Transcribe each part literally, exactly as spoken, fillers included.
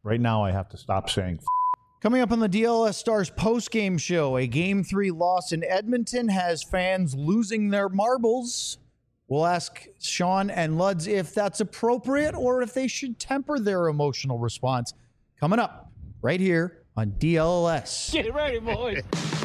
right now I have to stop saying f- Coming up on the D L S Stars post-game show, a Game three loss in Edmonton has fans losing their marbles. We'll ask Sean and Luds if that's appropriate or if they should temper their emotional response. Coming up right here on D L L S. Get ready, boys.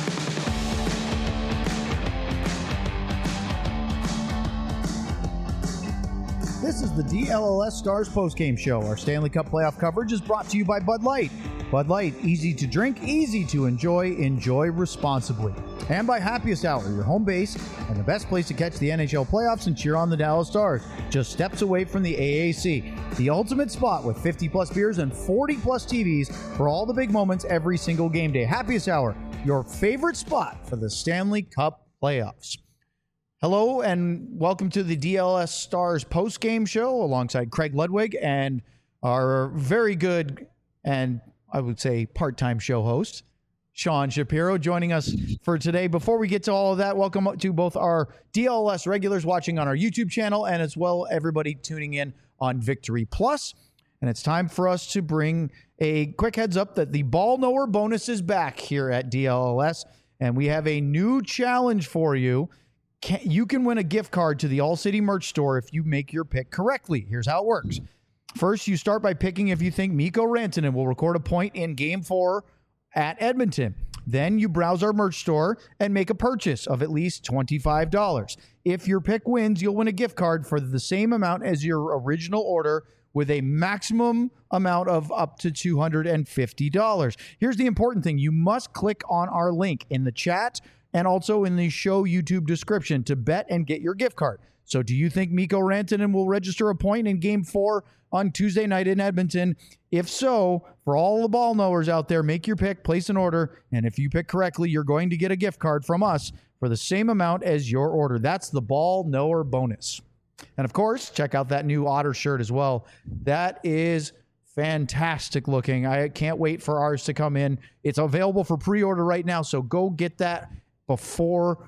This is the D L L S Stars postgame show. Our Stanley Cup playoff coverage is brought to you by Bud Light. Bud Light, easy to drink, easy to enjoy, enjoy responsibly. And by Happiest Hour, your home base and the best place to catch the N H L playoffs and cheer on the Dallas Stars. Just steps away from the A A C. The ultimate spot with fifty plus beers and forty plus T Vs for all the big moments every single game day. Happiest Hour, your favorite spot for the Stanley Cup playoffs. Hello and welcome to the D L S Stars post-game show alongside Craig Ludwig and our very good and I would say part-time show host, Sean Shapiro, joining us for today. Before we get to all of that, welcome to both our D L S regulars watching on our YouTube channel and as well everybody tuning in on Victory Plus. And it's time for us to bring a quick heads up that the Ball Knower bonus is back here at D L L S. And we have a new challenge for you. Can, you can win a gift card to the All City merch store if you make your pick correctly. Here's how it works. First, you start by picking if you think Mikko Rantanen will record a point in Game four at Edmonton. Then you browse our merch store and make a purchase of at least twenty-five dollars. If your pick wins, you'll win a gift card for the same amount as your original order with a maximum amount of up to two hundred fifty dollars. Here's the important thing. You must click on our link in the chat and also in the show YouTube description to bet and get your gift card. So do you think Mikko Rantanen will register a point in Game four on Tuesday night in Edmonton? If so, for all the ball knowers out there, make your pick, place an order, and if you pick correctly, you're going to get a gift card from us for the same amount as your order. That's the Ball Knower bonus. And of course, check out that new Otter shirt as well. That is fantastic looking. I can't wait for ours to come in. It's available for pre-order right now, so go get that before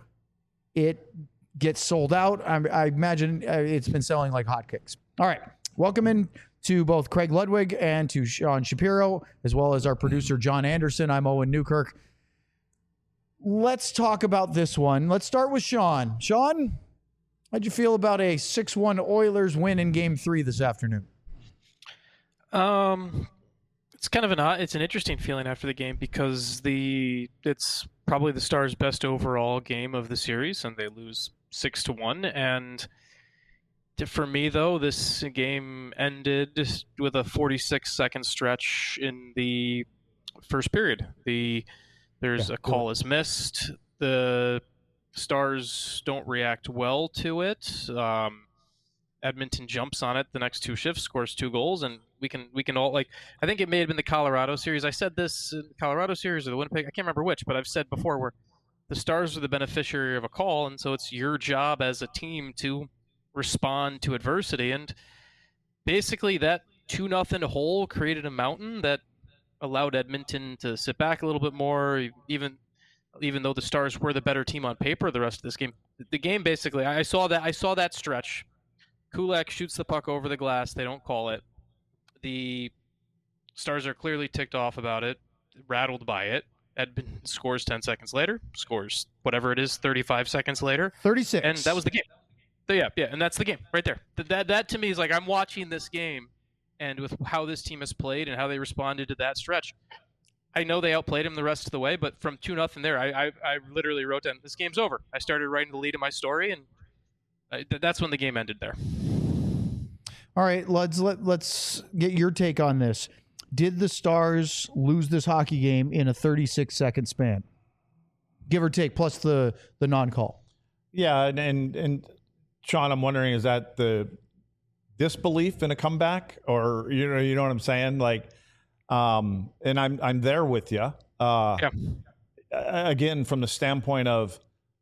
it gets sold out. I, I imagine it's been selling like hotcakes. All right. Welcome in to both Craig Ludwig and to Sean Shapiro, as well as our producer, John Anderson. I'm Owen Newkirk. Let's talk about this one. Let's start with Sean. Sean, how'd you feel about a six one Oilers win in Game three this afternoon? Um, it's kind of an odd, it's an interesting feeling after the game because the it's probably the Stars' best overall game of the series, and they lose six to one. And for me, though, this game ended with a forty-six second stretch in the first period. The there's yeah, a call is missed. The Stars don't react well to it. Um, Edmonton jumps on it the next two shifts, scores two goals, and we can we can all like. I think it may have been the Colorado series. I said this in the Colorado series or the Winnipeg. I can't remember which, but I've said before where the Stars are the beneficiary of a call, and so it's your job as a team to respond to adversity. And basically, that two nothing hole created a mountain that allowed Edmonton to sit back a little bit more, even even though the Stars were the better team on paper. The rest of this game, the game basically, I saw that I saw that stretch. Kulak shoots the puck over the glass. They don't call it. The Stars are clearly ticked off about it, rattled by it. Edmonton scores ten seconds later, scores whatever it is, thirty-five seconds later. thirty-six. And that was the game. So yeah, yeah, and that's the game right there. That, that, that to me is like I'm watching this game, and with how this team has played and how they responded to that stretch, I know they outplayed him the rest of the way, but from two nothing there, I, I, I literally wrote down, this game's over. I started writing the lead of my story, and I, that's when the game ended there. All right, let's let, let's get your take on this. Did the Stars lose this hockey game in a thirty-six second span? Give or take, plus the, the non-call. Yeah, and, and and Sean, I'm wondering, is that the disbelief in a comeback, or you know, you know what I'm saying? Like, um, and I'm I'm there with you. Uh, yeah. Again, from the standpoint of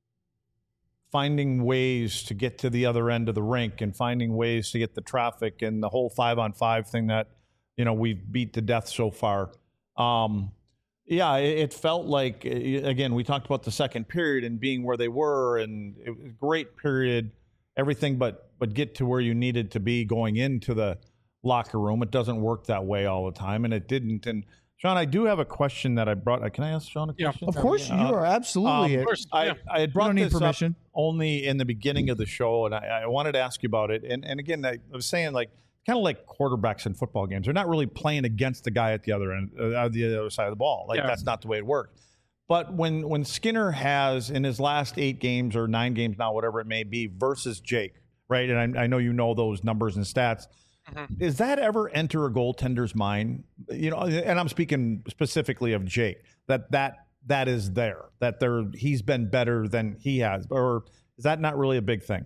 finding ways to get to the other end of the rink and finding ways to get the traffic and the whole five on five thing that, you know, we've beat to death so far. Um, yeah, it, it felt like, again, we talked about the second period and being where they were, and it was a great period, everything but but get to where you needed to be going into the locker room. It doesn't work that way all the time, and it didn't. And Sean, I do have a question that I brought. Can I ask Sean a question? Yeah, of course, uh, you are absolutely. Um, Of course, I, yeah. I had brought don't need this permission. up only in the beginning of the show, and I, I wanted to ask you about it. And and again, I, I was saying like kind of like quarterbacks in football games. They're not really playing against the guy at the other end, uh, the other side of the ball. Like Yeah. that's not the way it works. But when when Skinner has in his last eight games or nine games now, whatever it may be, versus Jake, right? And I, I know you know those numbers and stats. Mm-hmm. Does that ever enter a goaltender's mind? You know, and I'm speaking specifically of Jake. That that that is there. That there he's been better than he has, or is that not really a big thing?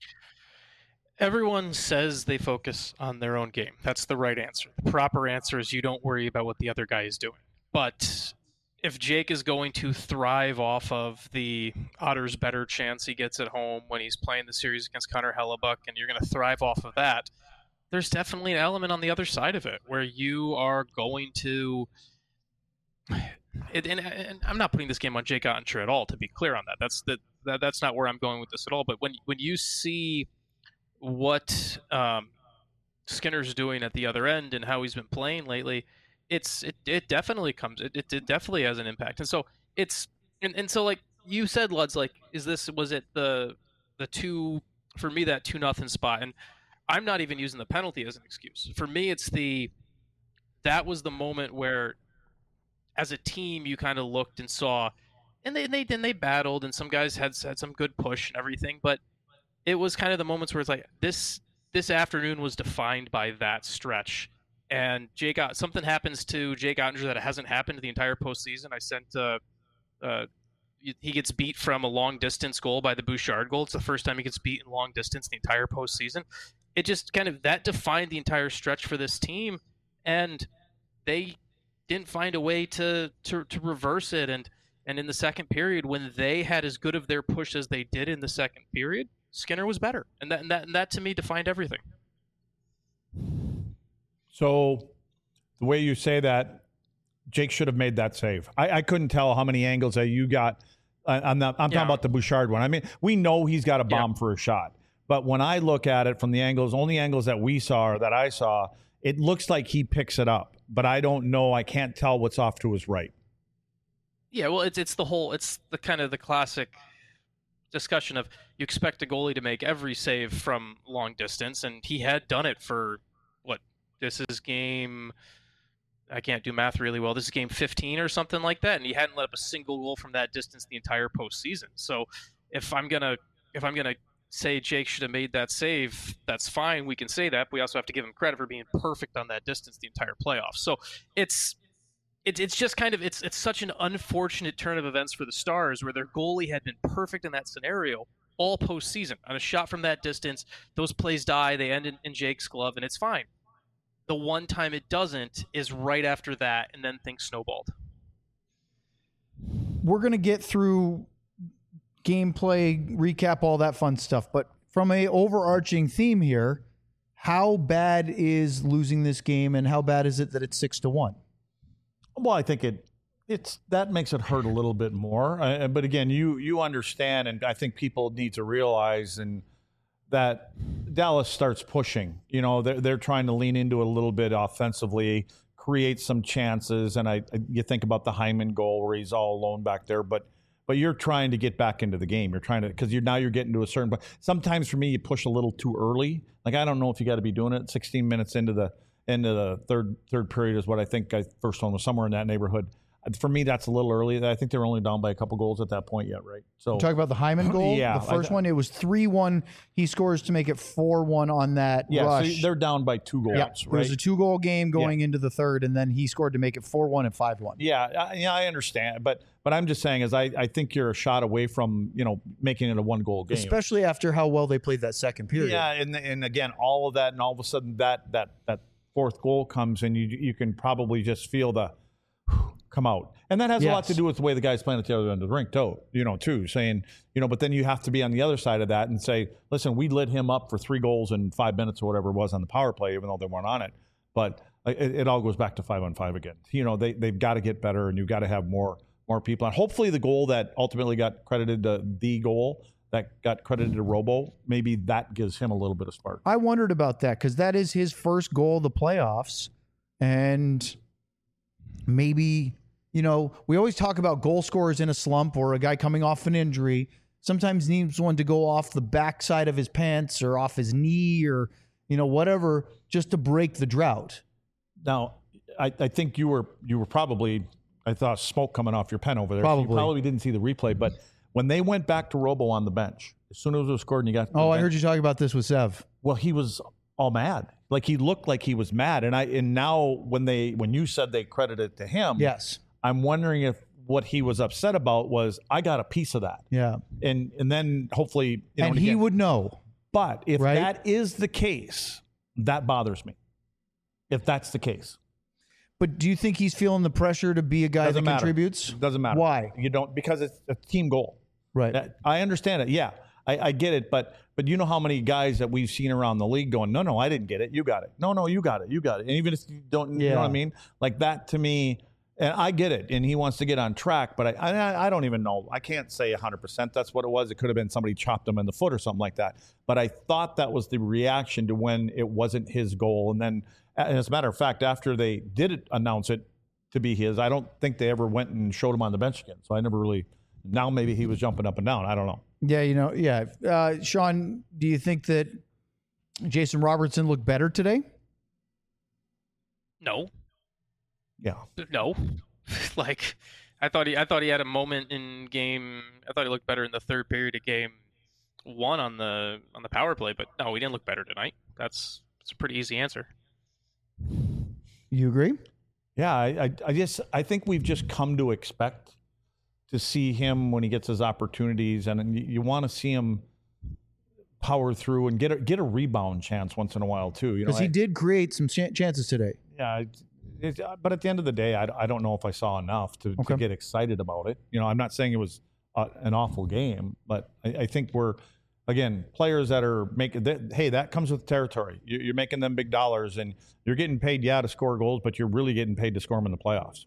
Everyone says they focus on their own game. That's the right answer. The proper answer is you don't worry about what the other guy is doing. But if Jake is going to thrive off of the Otters' better chance he gets at home when he's playing the series against Connor Hellebuck, and you're going to thrive off of that, there's definitely an element on the other side of it where you are going to it, and, and I'm not putting this game on Jake Ottinger at all, to be clear on that. That's the, that, that's not where I'm going with this at all. But when when you see what um, Skinner's doing at the other end and how he's been playing lately, it's it, it definitely comes it, it, it definitely has an impact. And so it's and, and so like you said, Luds, like is this was it the the two for me that two nothing spot? And I'm not even using the penalty as an excuse. For me, it's the that was the moment where, as a team, you kind of looked and saw, and they they then they battled, and some guys had had some good push and everything, but it was kind of the moments where it's like this this afternoon was defined by that stretch, and Jake got something happens to Jake Ottinger that hasn't happened the entire postseason. I sent uh, uh, he gets beat from a long distance goal by the Bouchard goal. It's the first time he gets beat in long distance the entire postseason. It just kind of that defined the entire stretch for this team, and they didn't find a way to to, to reverse it. And and in the second period, when they had as good of their push as they did in the second period, Skinner was better, and that and that, and that to me defined everything. So the way you say that, Jake should have made that save. I, I couldn't tell how many angles that you got. I, I'm not. I'm Yeah. talking about the Bouchard one. I mean, we know he's got a bomb Yeah. for a shot, but when I look at it from the angles, only angles that we saw or that I saw, it looks like he picks it up. But I don't know. I can't tell what's off to his right. Yeah, well, it's it's the whole it's the kind of the classic discussion of you expect a goalie to make every save from long distance, and he had done it for what this is game. I can't do math really well. This is game fifteen or something like that, and he hadn't let up a single goal from that distance the entire postseason. So if I'm gonna if I'm gonna say Jake should have made that save, that's fine. We can say that. But we also have to give him credit for being perfect on that distance the entire playoffs. So it's it's it's just kind of it's it's such an unfortunate turn of events for the Stars where their goalie had been perfect in that scenario all postseason. On a shot from that distance, those plays die. They end in, in Jake's glove, and it's fine. The one time it doesn't is right after that, and then things snowballed. We're going to get through gameplay, recap, all that fun stuff. But from a overarching theme here, how bad is losing this game, and how bad is it that it's six to one? Well, I think it it's that makes it hurt a little bit more. Uh, but again, you you understand, and I think people need to realize and that Dallas starts pushing. You know, they're they're trying to lean into it a little bit offensively, create some chances. And I you think about the Hyman goal where he's all alone back there, but but you're trying to get back into the game. You're trying to because you're now you're getting to a certain. But sometimes for me, you push a little too early. Like I don't know if you got to be doing it sixteen minutes into the into the third third period is what I think. I first one was somewhere in that neighborhood. For me, that's a little early. I think they were only down by a couple goals at that point yet, right? So You talk about the Hyman goal. Yeah, the first I, one, it was three one. He scores to make it four one on that yeah, rush. so they're down by two goals, yeah, right? It was a two-goal game going yeah. into the third, and then he scored to make it four one and five one. Yeah, I, yeah, I understand, but but I'm just saying is I, I think you're a shot away from you know making it a one-goal game, especially after how well they played that second period. Yeah, and and again, all of that, and all of a sudden that that that fourth goal comes, and you you can probably just feel the come out. And that has yes. a lot to do with the way the guy's playing at the other end of the rink, too, you know, too, saying, you know, but then you have to be on the other side of that and say, listen, we lit him up for three goals in five minutes or whatever it was on the power play, even though they weren't on it. But it, it all goes back to five on five again. You know, they, they've got to get better, and you've got to have more more people. And hopefully the goal that ultimately got credited to the goal that got credited to Robo, maybe that gives him a little bit of spark. I wondered about that because that is his first goal of the playoffs. And maybe, you know, we always talk about goal scorers in a slump or a guy coming off an injury. Sometimes needs one to go off the backside of his pants or off his knee or, you know, whatever, just to break the drought. Now, I, I think you were you were probably, I thought smoke coming off your pen over there. Probably. So you probably didn't see the replay, but when they went back to Robo on the bench, as soon as it was scored and you got... Oh, I bench, heard you talking about this with Sev. Well, he was all mad. Like he looked like he was mad. And I and now when they when you said they credited it to him, Yes. I'm wondering if what he was upset about was I got a piece of that. Yeah. And and then hopefully you know, And he again, would know. But if right? that is the case, that bothers me. If that's the case. But do you think he's feeling the pressure to be a guy Doesn't that matter. contributes? Doesn't matter. Why? You don't because it's a team goal. Right. That- I understand it. Yeah, I, I get it. But but you know how many guys that we've seen around the league going, no, no, I didn't get it. You got it. No, no, you got it. You got it. And even if you don't, you Yeah. know what I mean? Like that to me, and I get it. And he wants to get on track, but I I, I don't even know. I can't say one hundred percent that's what it was. It could have been somebody chopped him in the foot or something like that. But I thought that was the reaction to when it wasn't his goal. And then, and as a matter of fact, after they did it, announce it to be his, I don't think they ever went and showed him on the bench again. So I never really. Now maybe he was jumping up and down. I don't know. Yeah, you know, yeah. Uh, Sean, do you think that Jason Robertson looked better today? No, Yeah. no. Like, I thought he, I thought he had a moment in game. I thought he looked better in the third period of game one on the on the power play. But no, he didn't look better tonight. That's that's a pretty easy answer. You agree? Yeah, I, I, I just I think we've just come to expect to see him when he gets his opportunities, and you, you want to see him power through and get a, get a rebound chance once in a while too. You know, Because he I- did create some ch- chances today. yeah. It, it, but at the end of the day, I, I don't know if I saw enough to, Okay. to get excited about it. You know, I'm not saying it was uh, an awful game, but I, I think we're again players that are making. That, hey, that comes with territory. You, you're making them big dollars, and you're getting paid, yeah, to score goals, but you're really getting paid to score them in the playoffs.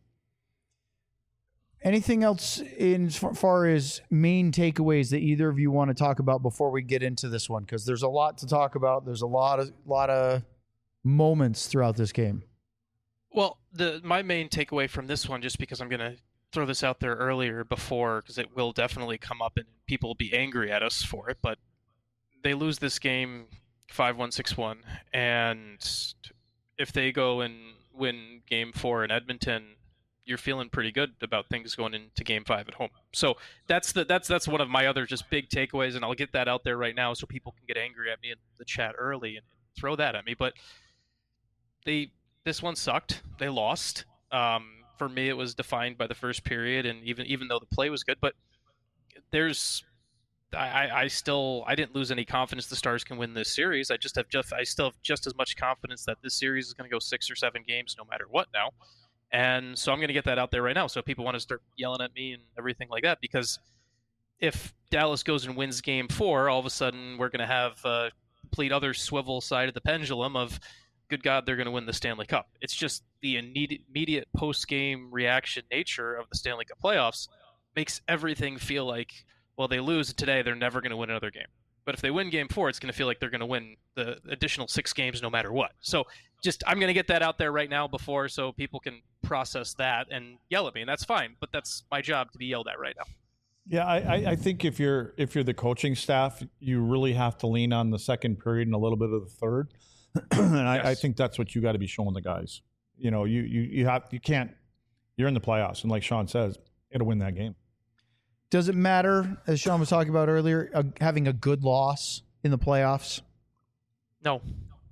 Anything else in as far as main takeaways that either of you want to talk about before we get into this one? Because there's a lot to talk about. There's a lot of lot of moments throughout this game. Well, the my main takeaway from this one, just because I'm going to throw this out there earlier before, because it will definitely come up and people will be angry at us for it, but they lose this game five one, six one, and if they go and win game four in Edmonton, you're feeling pretty good about things going into game five at home. So that's the that's that's one of my other just big takeaways, and I'll get that out there right now so people can get angry at me in the chat early and throw that at me. But they this one sucked. They lost. Um, for me, it was defined by the first period, and even even though the play was good, but there's I, I still I didn't lose any confidence the Stars can win this series. I just have just I still have just as much confidence that this series is going to go six or seven games no matter what now. And so I'm going to get that out there right now so people want to start yelling at me and everything like that, because if Dallas goes and wins game four, all of a sudden we're going to have a complete other swivel side of the pendulum of, good God, they're going to win the Stanley Cup. It's just the immediate post-game reaction nature of the Stanley Cup playoffs makes everything feel like, well, they lose today, they're never going to win another game. But if they win game four, it's going to feel like they're going to win the additional six games no matter what. So just I'm going to get that out there right now before so people can process that and yell at me, and that's fine. But that's my job to be yelled at right now. Yeah, I, I I think if you're if you're the coaching staff, you really have to lean on the second period and a little bit of the third. and I, Yes. I think that's what you got to be showing the guys. You know, you you you have you can't. You're in the playoffs, and like Sean says, it'll win that game. Does it matter, as Sean was talking about earlier, uh, having a good loss in the playoffs? No.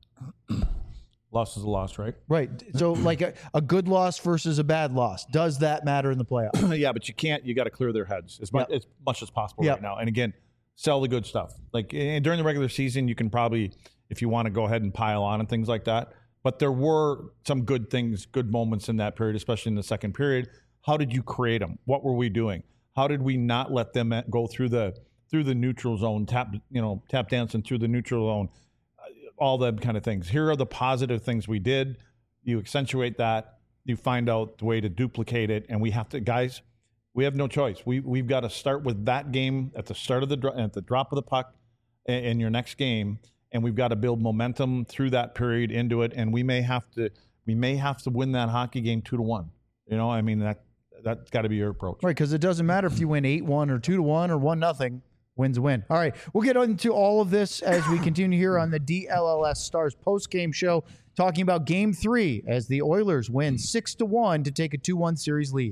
Loss is a loss, right? Right. So, like a, a good loss versus a bad loss, does that matter in the playoffs? yeah, but you can't. You got to clear their heads as much Yep. as much as possible Yep. right now. And again, sell the good stuff. Like eh, during the regular season, you can probably, if you want to go ahead and pile on and things like that. But there were some good things, good moments in that period, especially in the second period. How did you create them? What were we doing? How did we not let them go through the through the neutral zone, tap you know tap dancing through the neutral zone, all them kind of things. Here are the positive things we did. You accentuate that. You find out the way to duplicate it, and we have to, guys. We have no choice. We we've got to start with that game at the start of the dro- at the drop of the puck in, in your next game, and we've got to build momentum through that period into it. And we may have to we may have to win that hockey game two to one. You know, I mean that that's got to be your approach, right? Because it doesn't matter if you win eight one or two to one or one nothing. Wins a win. All right, we'll get into all of this as we continue here on the D L L S Stars post-game show, talking about Game Three as the Oilers win six to one to take a two one series lead.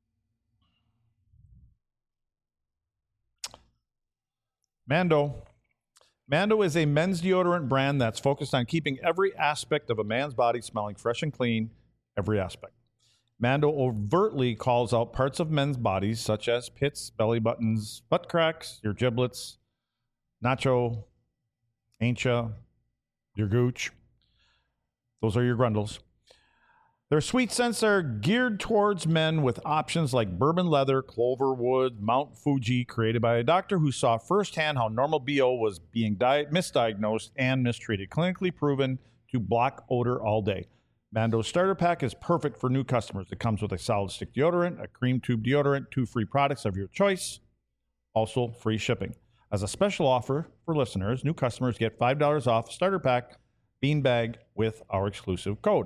Mando. Mando is a men's deodorant brand that's focused on keeping every aspect of a man's body smelling fresh and clean, every aspect. Mando overtly calls out parts of men's bodies such as pits, belly buttons, butt cracks, your giblets, nacho, aincha, your gooch. Those are your grundles. Their sweet scents are geared towards men with options like bourbon leather, clover wood, Mount Fuji, created by a doctor who saw firsthand how normal B O was being di- misdiagnosed and mistreated. Clinically proven to block odor all day. Mando's starter pack is perfect for new customers. It comes with a solid stick deodorant, a cream tube deodorant, two free products of your choice, also free shipping. As a special offer for listeners, new customers get five dollars off starter pack beanbag with our exclusive code.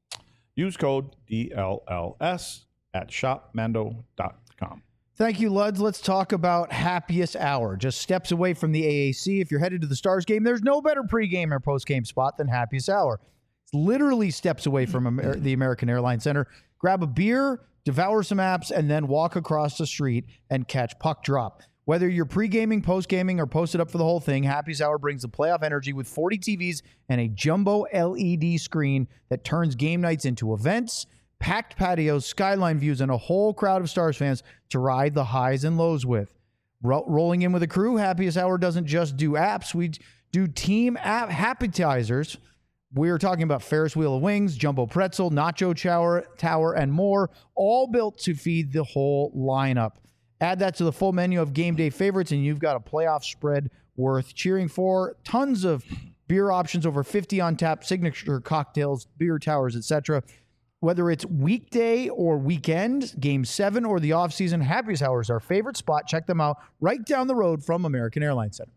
Use code D L L S at shop mando dot com. Thank you, Luds. Let's talk about Happiest Hour. Just steps away from the A A C. If you're headed to the Stars game, there's no better pregame or postgame spot than Happiest Hour. Literally steps away from Amer- the American Airlines Center. Grab a beer, devour some apps, and then walk across the street and catch puck drop. Whether you're pre-gaming, post-gaming, or posted up for the whole thing, Happy's Hour brings the playoff energy with forty T Vs and a jumbo L E D screen that turns game nights into events, packed patios, skyline views, and a whole crowd of Stars fans to ride the highs and lows with. Ro- rolling in with a crew, Happiest Hour doesn't just do apps. We do team app appetizers. We're talking about Ferris Wheel of Wings, Jumbo Pretzel, Nacho Tower, Tower, and more, all built to feed the whole lineup. Add that to the full menu of game day favorites, and you've got a playoff spread worth cheering for. Tons of beer options, over fifty on tap, signature cocktails, beer towers, et cetera. Whether it's weekday or weekend, game seven or the offseason, Happiest Hour is our favorite spot. Check them out right down the road from American Airlines Center.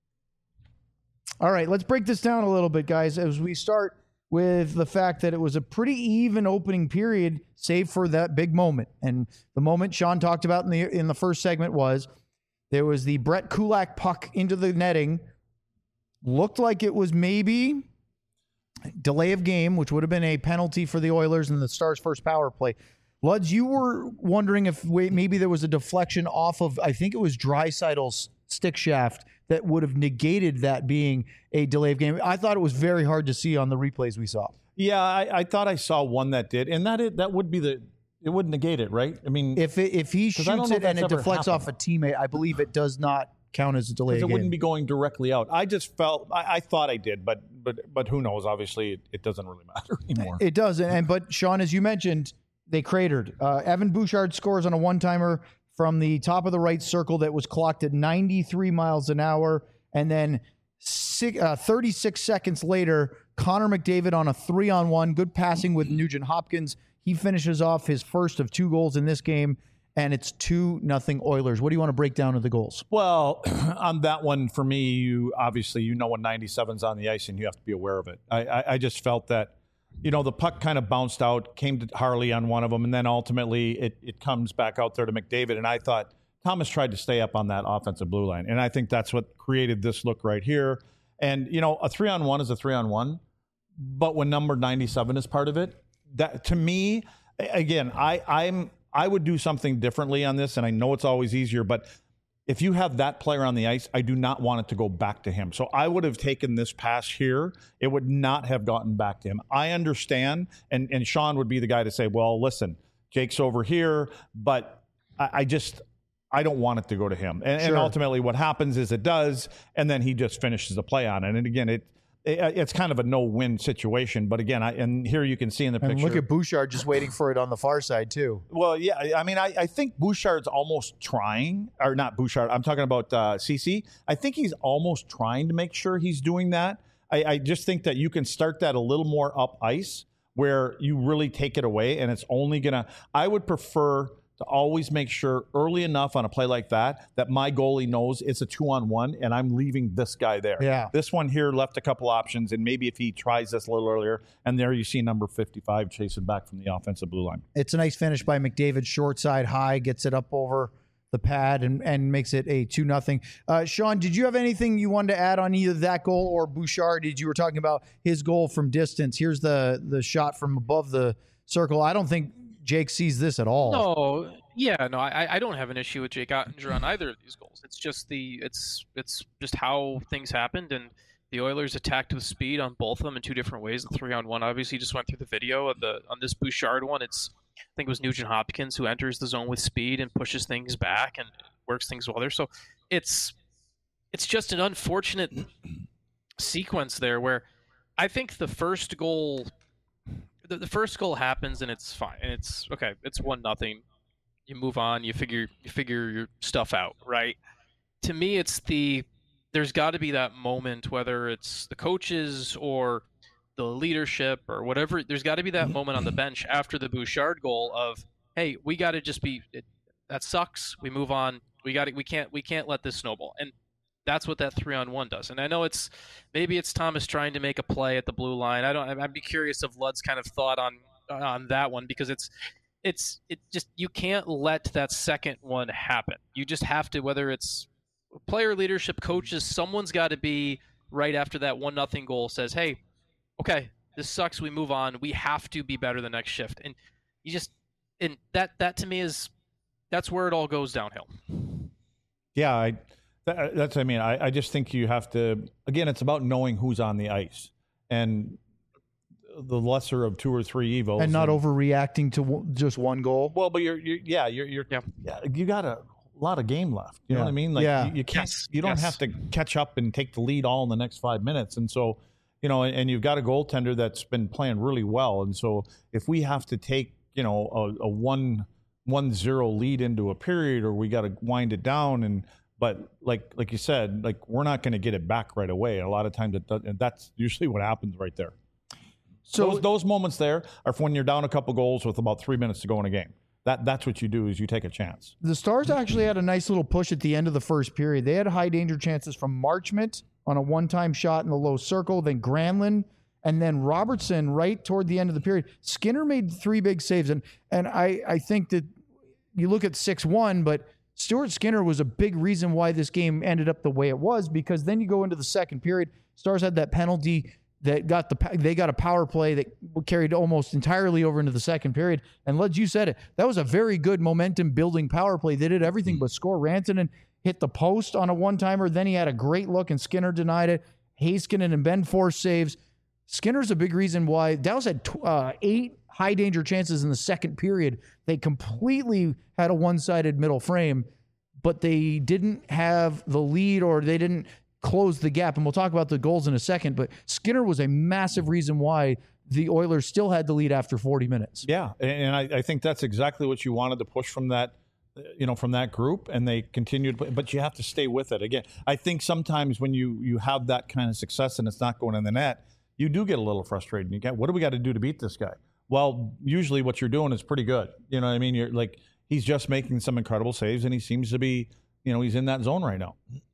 All right, let's break this down a little bit, guys, as we start with the fact that it was a pretty even opening period, save for that big moment. And the moment Sean talked about in the in the first segment was there was the Brett Kulak puck into the netting. Looked like it was maybe delay of game, which would have been a penalty for the Oilers in the Stars' first power play. Luds, you were wondering if maybe there was a deflection off of, I think it was Draisaitl's stick shaft that would have negated that being a delay of game. I thought it was very hard to see on the replays we saw. Yeah, I, I thought I saw one that did, and that it, that would be the it would negate it, right? I mean, if it, if he shoots it and it deflects happened. off a teammate, I believe it does not count as a delay of game. It wouldn't be going directly out. I just felt I, I thought I did, but but but who knows? Obviously, it, it doesn't really matter anymore. It doesn't. And but Sean, as you mentioned, they cratered. Uh, Evan Bouchard scores on a one-timer from the top of the right circle that was clocked at ninety-three miles an hour. And then six, uh, thirty-six seconds later, Connor McDavid on a three-on-one, good passing with Nugent Hopkins. He finishes off his first of two goals in this game, and it's two nothing Oilers. What do you want to break down of the goals? Well, on that one, for me, you obviously, you know when ninety-seven's on the ice, and you have to be aware of it. I, I, I just felt that, you know, the puck kind of bounced out, came to Harley on one of them, and then ultimately it, it comes back out there to McDavid. And I thought Thomas tried to stay up on that offensive blue line. And I think that's what created this look right here. And, you know, a three-on-one is a three-on-one. But when number ninety-seven is part of it, that to me, again, I, I'm I would do something differently on this. And I know it's always easier. But if you have that player on the ice, I do not want it to go back to him. So I would have taken this pass here. It would not have gotten back to him. I understand. And, and Sean would be the guy to say, well, listen, Jake's over here. But I, I just... I don't want it to go to him. And, sure. and ultimately what happens is it does, and then he just finishes the play on it. And again, it, it it's kind of a no-win situation. But again, I, and here you can see in the and picture. Look at Bouchard just waiting for it on the far side too. Well, yeah, I mean, I, I think Bouchard's almost trying, or not Bouchard, I'm talking about uh, C C. I think he's almost trying to make sure he's doing that. I, I just think that you can start that a little more up ice where you really take it away, and it's only going to – I would prefer – to always make sure early enough on a play like that that my goalie knows it's a two-on-one and I'm leaving this guy there. Yeah. This one here left a couple options, and maybe if he tries this a little earlier, and there you see number fifty-five chasing back from the offensive blue line. It's a nice finish by McDavid, short side high, gets it up over the pad and, and makes it a two nothing. Uh, Sean, did you have anything you wanted to add on either that goal or Bouchard? Did you were talking about his goal from distance? Here's the the shot from above the circle. I don't think Jake sees this at all. No, yeah, no, I, I don't have an issue with Jake Ottinger on either of these goals. It's just the it's it's just how things happened, and the Oilers attacked with speed on both of them in two different ways. The three on one obviously just went through the video of the on this Bouchard one. It's I think it was Nugent Hopkins who enters the zone with speed and pushes things back and works things well there. So it's it's just an unfortunate sequence there where I think the first goal. The, the first goal happens and it's fine. And it's okay. It's one nothing. You move on. You figure you figure your stuff out, right? To me, it's the there's got to be that moment, whether it's the coaches or the leadership or whatever. There's got to be that moment on the bench after the Bouchard goal of, hey, we got to just be. It, that sucks. We move on. We got We can't. We can't let this snowball. And that's what that three on one does. And I know it's maybe it's Thomas trying to make a play at the blue line. I don't. I'd be curious of Ludd's kind of thought on on that one because it's it's it just you can't let that second one happen. You just have to, whether it's player leadership, coaches, someone's got to be right after that one nothing goal says, hey, okay, this sucks. We move on. We have to be better the next shift. And you just and that that to me is that's where it all goes downhill. Yeah, I. That, that's, I mean, I, I just think you have to, again, it's about knowing who's on the ice and the lesser of two or three evils. And not and, overreacting to w- just one goal. Well, but you're, you're yeah, you're, you're, yeah. yeah, you got a lot of game left. You yeah. know what I mean? Like, yeah. you, you can't, yes. you don't yes. have to catch up and take the lead all in the next five minutes. And so, you know, and, and you've got a goaltender that's been playing really well. And so if we have to take, you know, a, a one, one zero lead into a period, or we got to wind it down and, But like like you said, like we're not going to get it back right away. A lot of times, it does, and that's usually what happens right there. So those, those moments there are when you're down a couple goals with about three minutes to go in a game. That that's what you do is you take a chance. The Stars actually had a nice little push at the end of the first period. They had high danger chances from Marchment on a one-time shot in the low circle, then Granlund, and then Robertson right toward the end of the period. Skinner made three big saves, and and I I think that you look at six one, but Stuart Skinner was a big reason why this game ended up the way it was, because then you go into the second period, Stars had that penalty that got the they got a power play that carried almost entirely over into the second period. And Lud, you said it, that was a very good momentum building power play. They did everything but score. Rantanen hit the post on a one-timer. Then he had a great look and Skinner denied it. Heiskanen and Ben forced saves. Skinner's a big reason why Dallas had uh, eight high danger chances in the second period. They completely had a one-sided middle frame, but they didn't have the lead or they didn't close the gap. And we'll talk about the goals in a second, but Skinner was a massive reason why the Oilers still had the lead after forty minutes. Yeah, and I, I think that's exactly what you wanted to push from that, you know, from that group, and they continued, but you have to stay with it. Again, I think sometimes when you, you have that kind of success and it's not going in the net, you do get a little frustrated. You get, what do we got to do to beat this guy? Well, usually what you're doing is pretty good. You know what I mean? You're like, he's just making some incredible saves, and he seems to be, you know, he's in that zone right now.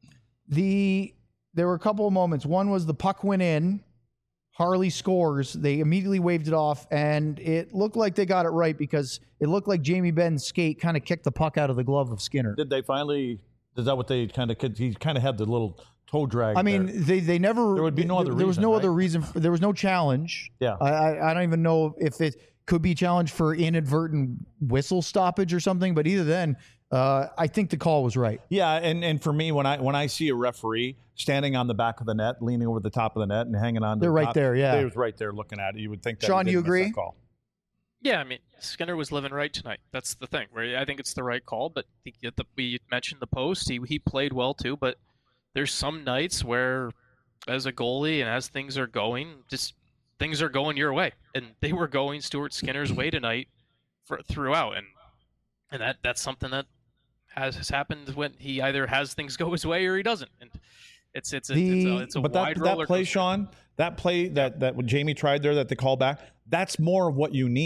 The there were a couple of moments. One was the puck went in, Harley scores. They immediately waved it off, and it looked like they got it right because it looked like Jamie Benn's skate kind of kicked the puck out of the glove of Skinner. Did they finally? Is that what they kind of? He kind of had the little toe drag. I mean, there. they they never. There would be no other. There was reason, no right? other reason. For, there was no challenge. Yeah. I, I I don't even know if it could be challenged for inadvertent whistle stoppage or something. But either then, uh, I think the call was right. Yeah, and, and for me, when I when I see a referee standing on the back of the net, leaning over the top of the net, and hanging on, to they're the right top, there. Yeah, they was right there looking at it. You would think that. Sean, he you didn't miss agree? that call. Yeah, I mean, Skinner was living right tonight. That's the thing. Where I think it's the right call, but the, the, we mentioned the post. He he played well too, but there's some nights where, as a goalie and as things are going, just things are going your way, and they were going Stuart Skinner's way tonight for, throughout, and and that that's something that has, has happened when he either has things go his way or he doesn't, and it's it's a, The, it's a, it's a But wide that, roller that play, coaster. Sean, that play that that what Jamie tried there, that they call back, that's more of what you need.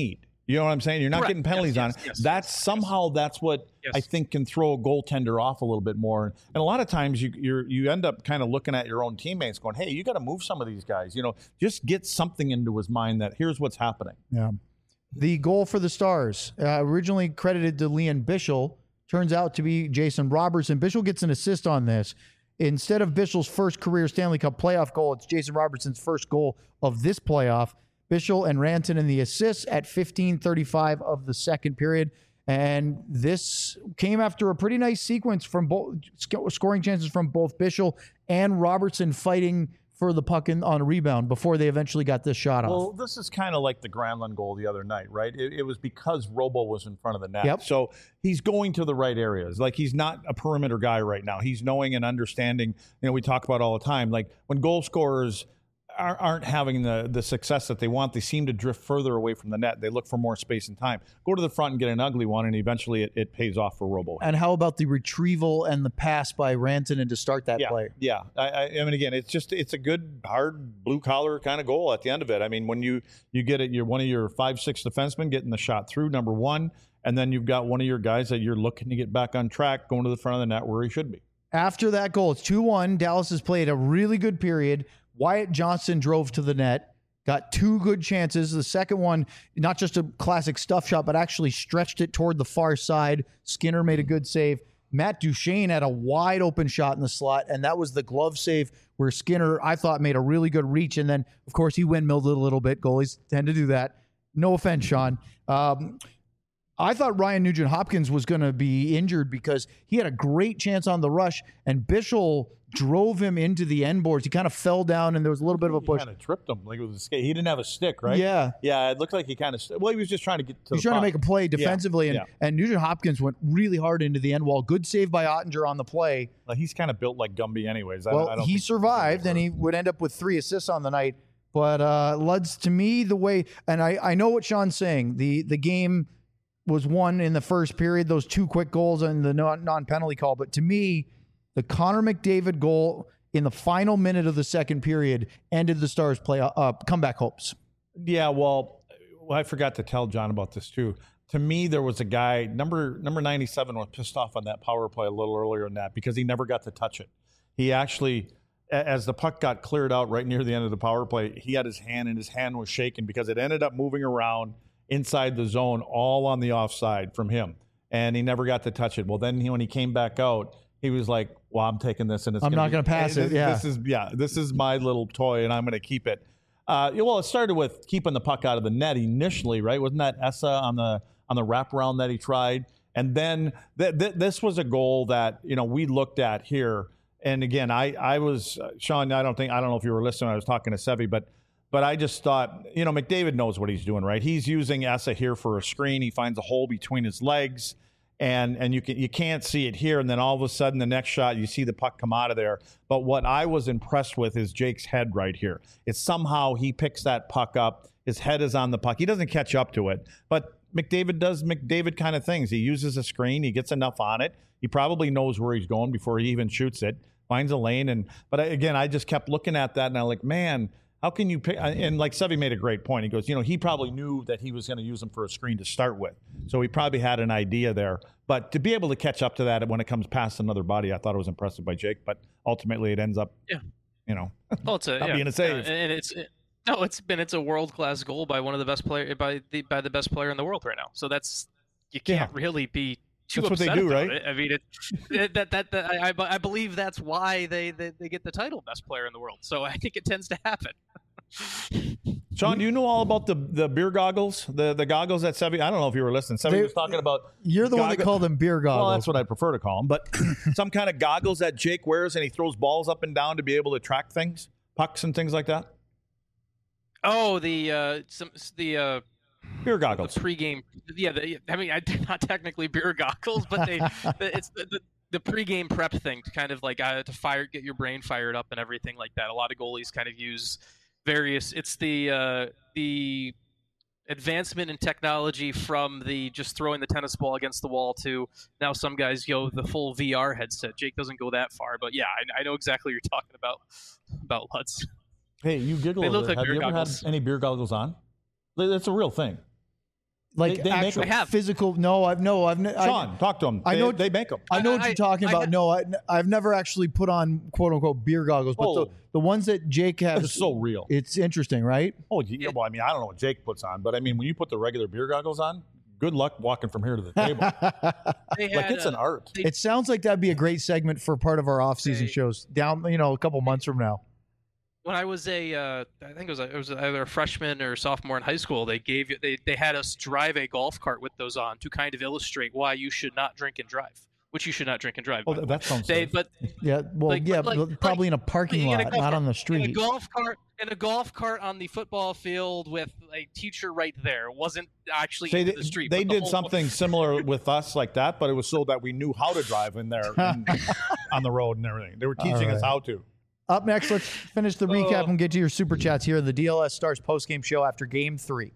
You know what I'm saying? You're not Correct. getting penalties yes, on yes, it. yes, That's yes, somehow yes. that's what Yes. I think can throw a goaltender off a little bit more. And a lot of times you you're, you end up kind of looking at your own teammates going, hey, you got to move some of these guys. You know, just get something into his mind that here's what's happening. Yeah. The goal for the Stars, uh, originally credited to Leon Bichel, turns out to be Jason Robertson. Bichel gets an assist on this. Instead of Bichel's first career Stanley Cup playoff goal, it's Jason Robertson's first goal of this playoff. Bichel and Rantanen in the assists at fifteen thirty-five of the second period. And this came after a pretty nice sequence from both scoring chances from both Bichel and Robertson fighting for the puck in, on a rebound before they eventually got this shot off. Well, this is kind of like the Granlund goal the other night, right? It, it was because Robo was in front of the net. Yep. So he's going to the right areas. Like, he's not a perimeter guy right now. He's knowing and understanding. You know, we talk about all the time. Like, when goal scorers aren't having the, the success that they want, they seem to drift further away from the net. They look for more space and time. Go to the front and get an ugly one, and eventually it, it pays off for Robo. And how about the retrieval and the pass by Rantanen to start that yeah, play? Yeah. I, I, I mean, again, it's just it's a good, hard, blue-collar kind of goal at the end of it. I mean, when you, you get it, you're one of your five, six defensemen getting the shot through, number one, and then you've got one of your guys that you're looking to get back on track, going to the front of the net where he should be. After that goal, it's two one. Dallas has played a really good period. Wyatt Johnston drove to the net, got two good chances. The second one, not just a classic stuff shot, but actually stretched it toward the far side. Skinner made a good save. Matt Duchene had a wide open shot in the slot, and that was the glove save where Skinner, I thought, made a really good reach. And then, of course, he windmilled it a little bit. Goalies tend to do that. No offense, Sean. Um, I thought Ryan Nugent-Hopkins was going to be injured because he had a great chance on the rush, and Bichel drove him into the end boards. He kind of fell down, and there was a little bit of a He push. kind of tripped him like it was a skate. He didn't have a stick, right? Yeah. Yeah, it looked like he kind of, well, he was just trying to get to He's the trying to puck. make a play defensively, Yeah, and, yeah. and Nugent-Hopkins went really hard into the end wall. Good save by Ottinger on the play. Well, he's kind of built like Gumby anyways. I, Well, I don't he think survived, and he would end up with three assists on the night. But uh, Luds, to me, the way, and I, I know what Sean's saying, the the game was won in the first period, those two quick goals and the non- non-penalty call. But to me, the Connor McDavid goal in the final minute of the second period ended the Stars' play uh, comeback hopes. Yeah, well, well, I forgot to tell John about this too. To me, there was a guy, number number ninety-seven, was pissed off on that power play a little earlier than that because he never got to touch it. He actually, a- as the puck got cleared out right near the end of the power play, he had his hand, and his hand was shaking because it ended up moving around inside the zone, all on the offside from him, and he never got to touch it. Well, then he, when he came back out, he was like, well, I'm taking this, and it's I'm gonna not be- gonna pass this, it, yeah. This is, yeah, this is my little toy, and I'm going to keep it. Uh, well, it started with keeping the puck out of the net initially, right? Wasn't that Essa on the on the wraparound that he tried? And then th- th- this was a goal that, you know, we looked at here. And again, I I was uh, Sean. I don't think I don't know if you were listening. I was talking to Sevy, but but I just thought, you know, McDavid knows what he's doing, right? He's using Essa here for a screen. He finds a hole between his legs, and and you can you can't see it here. And then all of a sudden, the next shot, you see the puck come out of there. But what I was impressed with is Jake's head right here. It's somehow he picks that puck up. His head is on the puck. He doesn't catch up to it, but McDavid does McDavid kind of things. He uses a screen. He gets enough on it. He probably knows where he's going before he even shoots it. Finds a lane. And but I, again, I just kept looking at that, and I'm like, man, how can you pick? And like Sevy made a great point. He goes, you know, he probably knew that he was going to use them for a screen to start with, so he probably had an idea there. But to be able to catch up to that when it comes past another body, I thought it was impressive by Jake. But ultimately, it ends up, Yeah. you know, Oh, it's a not yeah. being a save. Uh, and it's it, no, it's been it's a world class goal by one of the best player by the by the best player in the world right now. So that's you can't really be too That's what they upset do, about right? it. I mean, it, it, that that, that I, I I believe that's why they, they they get the title best player in the world. So I think it tends to happen. Sean, do you know all about the the beer goggles, the the goggles that Sevy? I don't know if you were listening. Sevy They- was talking about. You're the one that goggle- called them beer goggles. Well, that's what I prefer to call them. But some kind of goggles that Jake wears, and he throws balls up and down to be able to track things, pucks and things like that. Oh, the uh, some the uh, Beer the goggles. pregame. Yeah, the, I mean, I, they're not technically beer goggles, but they the, it's the, the the pregame prep thing to kind of like uh, to fire get your brain fired up and everything like that. A lot of goalies kind of use various. It's the uh, the advancement in technology from the just throwing the tennis ball against the wall to now some guys go the full V R headset. Jake doesn't go that far, but yeah, I, I know exactly what you're talking about about Lutz. Hey, you giggle. They a look bit. like Have beer you ever goggles. had any beer goggles on? That's a real thing. Like They- they make actual them. I have. physical. No, I've no, I've ne- Sean, I, talk to them. I They, know- they make them. I know what I- you're talking I about. ha- no, I, I've never actually put on quote unquote beer goggles, but the, Oh. the ones that Jake has, It's so real. it's interesting, right? Oh, yeah, well, I mean, I don't know what Jake puts on, but I mean, when you put the regular beer goggles on, good luck walking from here to the table. They like had, it's uh, an art. It sounds like that'd be a great segment for part of our off-season They- shows down, you know, a couple months from now. When I was a, uh, I think it was, a, it was either a freshman or sophomore in high school. They gave you, they, they had us drive a golf cart with those on to kind of illustrate why you should not drink and drive, which you should not drink and drive. Oh, by the that way. sounds They, safe. but Yeah, well, Like- yeah, like- but probably in a parking in a lot, golf not cart- on the in a street. golf cart, in a golf cart on the football field with a teacher right there. It wasn't actually Say into they, the street. they but the did whole- something similar with us like that, but it was so that we knew how to drive in there and, on the road and everything. They were teaching All us right. how to. Up next, let's finish the recap Oh. and get to your super chats here on the D L S Stars postgame show after Game Three.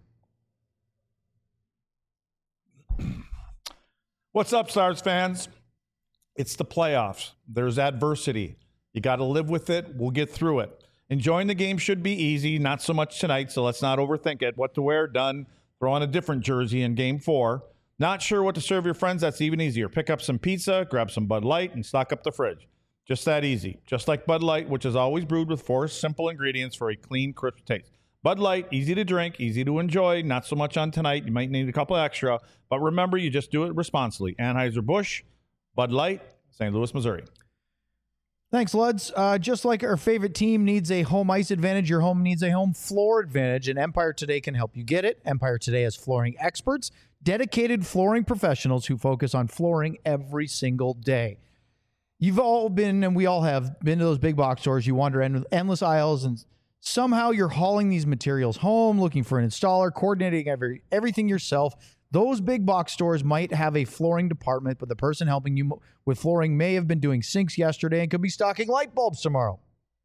What's up, Stars fans? It's the playoffs. There's adversity. You got to live with it. We'll get through it. Enjoying the game should be easy, not so much tonight, so let's not overthink it. What to wear, done. Throw on a different jersey in game four. Not sure what to serve your friends? That's even easier. Pick up some pizza, grab some Bud Light, and stock up the fridge. Just that easy. Just like Bud Light, which is always brewed with four simple ingredients for a clean, crisp taste. Bud Light, easy to drink, easy to enjoy, not so much on tonight. You might need a couple extra, but remember, you just do it responsibly. Anheuser-Busch, Bud Light, Saint Louis, Missouri. Thanks, Luds. Uh, just like our favorite team needs a home ice advantage, your home needs a home floor advantage, and Empire Today can help you get it. Empire Today has flooring experts, dedicated flooring professionals who focus on flooring every single day. You've all been, and we all have, been to those big box stores. You wander in with endless aisles, and somehow you're hauling these materials home, looking for an installer, coordinating every everything yourself. Those big box stores might have a flooring department, but the person helping you with flooring may have been doing sinks yesterday and could be stocking light bulbs tomorrow.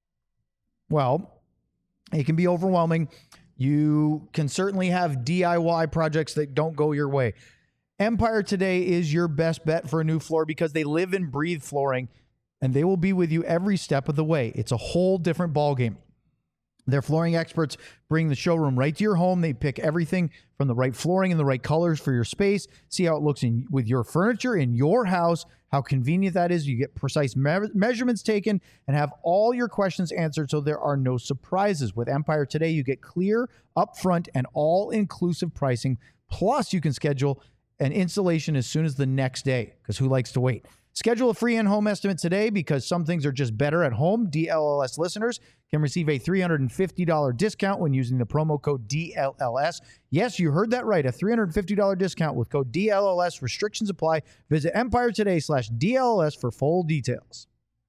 Well, it can be overwhelming. You can certainly have D I Y projects that don't go your way. Empire Today is your best bet for a new floor because they live and breathe flooring, and they will be with you every step of the way. It's a whole different ballgame. Their flooring experts bring the showroom right to your home. They pick everything from the right flooring and the right colors for your space. See how it looks in with your furniture in your house, how convenient that is. You get precise me- measurements taken and have all your questions answered so there are no surprises. With Empire Today, you get clear, upfront, and all-inclusive pricing. Plus, you can schedule an installation as soon as the next day, because who likes to wait? Schedule a free in-home estimate today because some things are just better at home. D L L S listeners can receive a three hundred fifty dollars discount when using the promo code D L L S. Yes, you heard that right. A three hundred fifty dollars discount with code D L L S. Restrictions apply. Visit Empire Today slash D L L S for full details.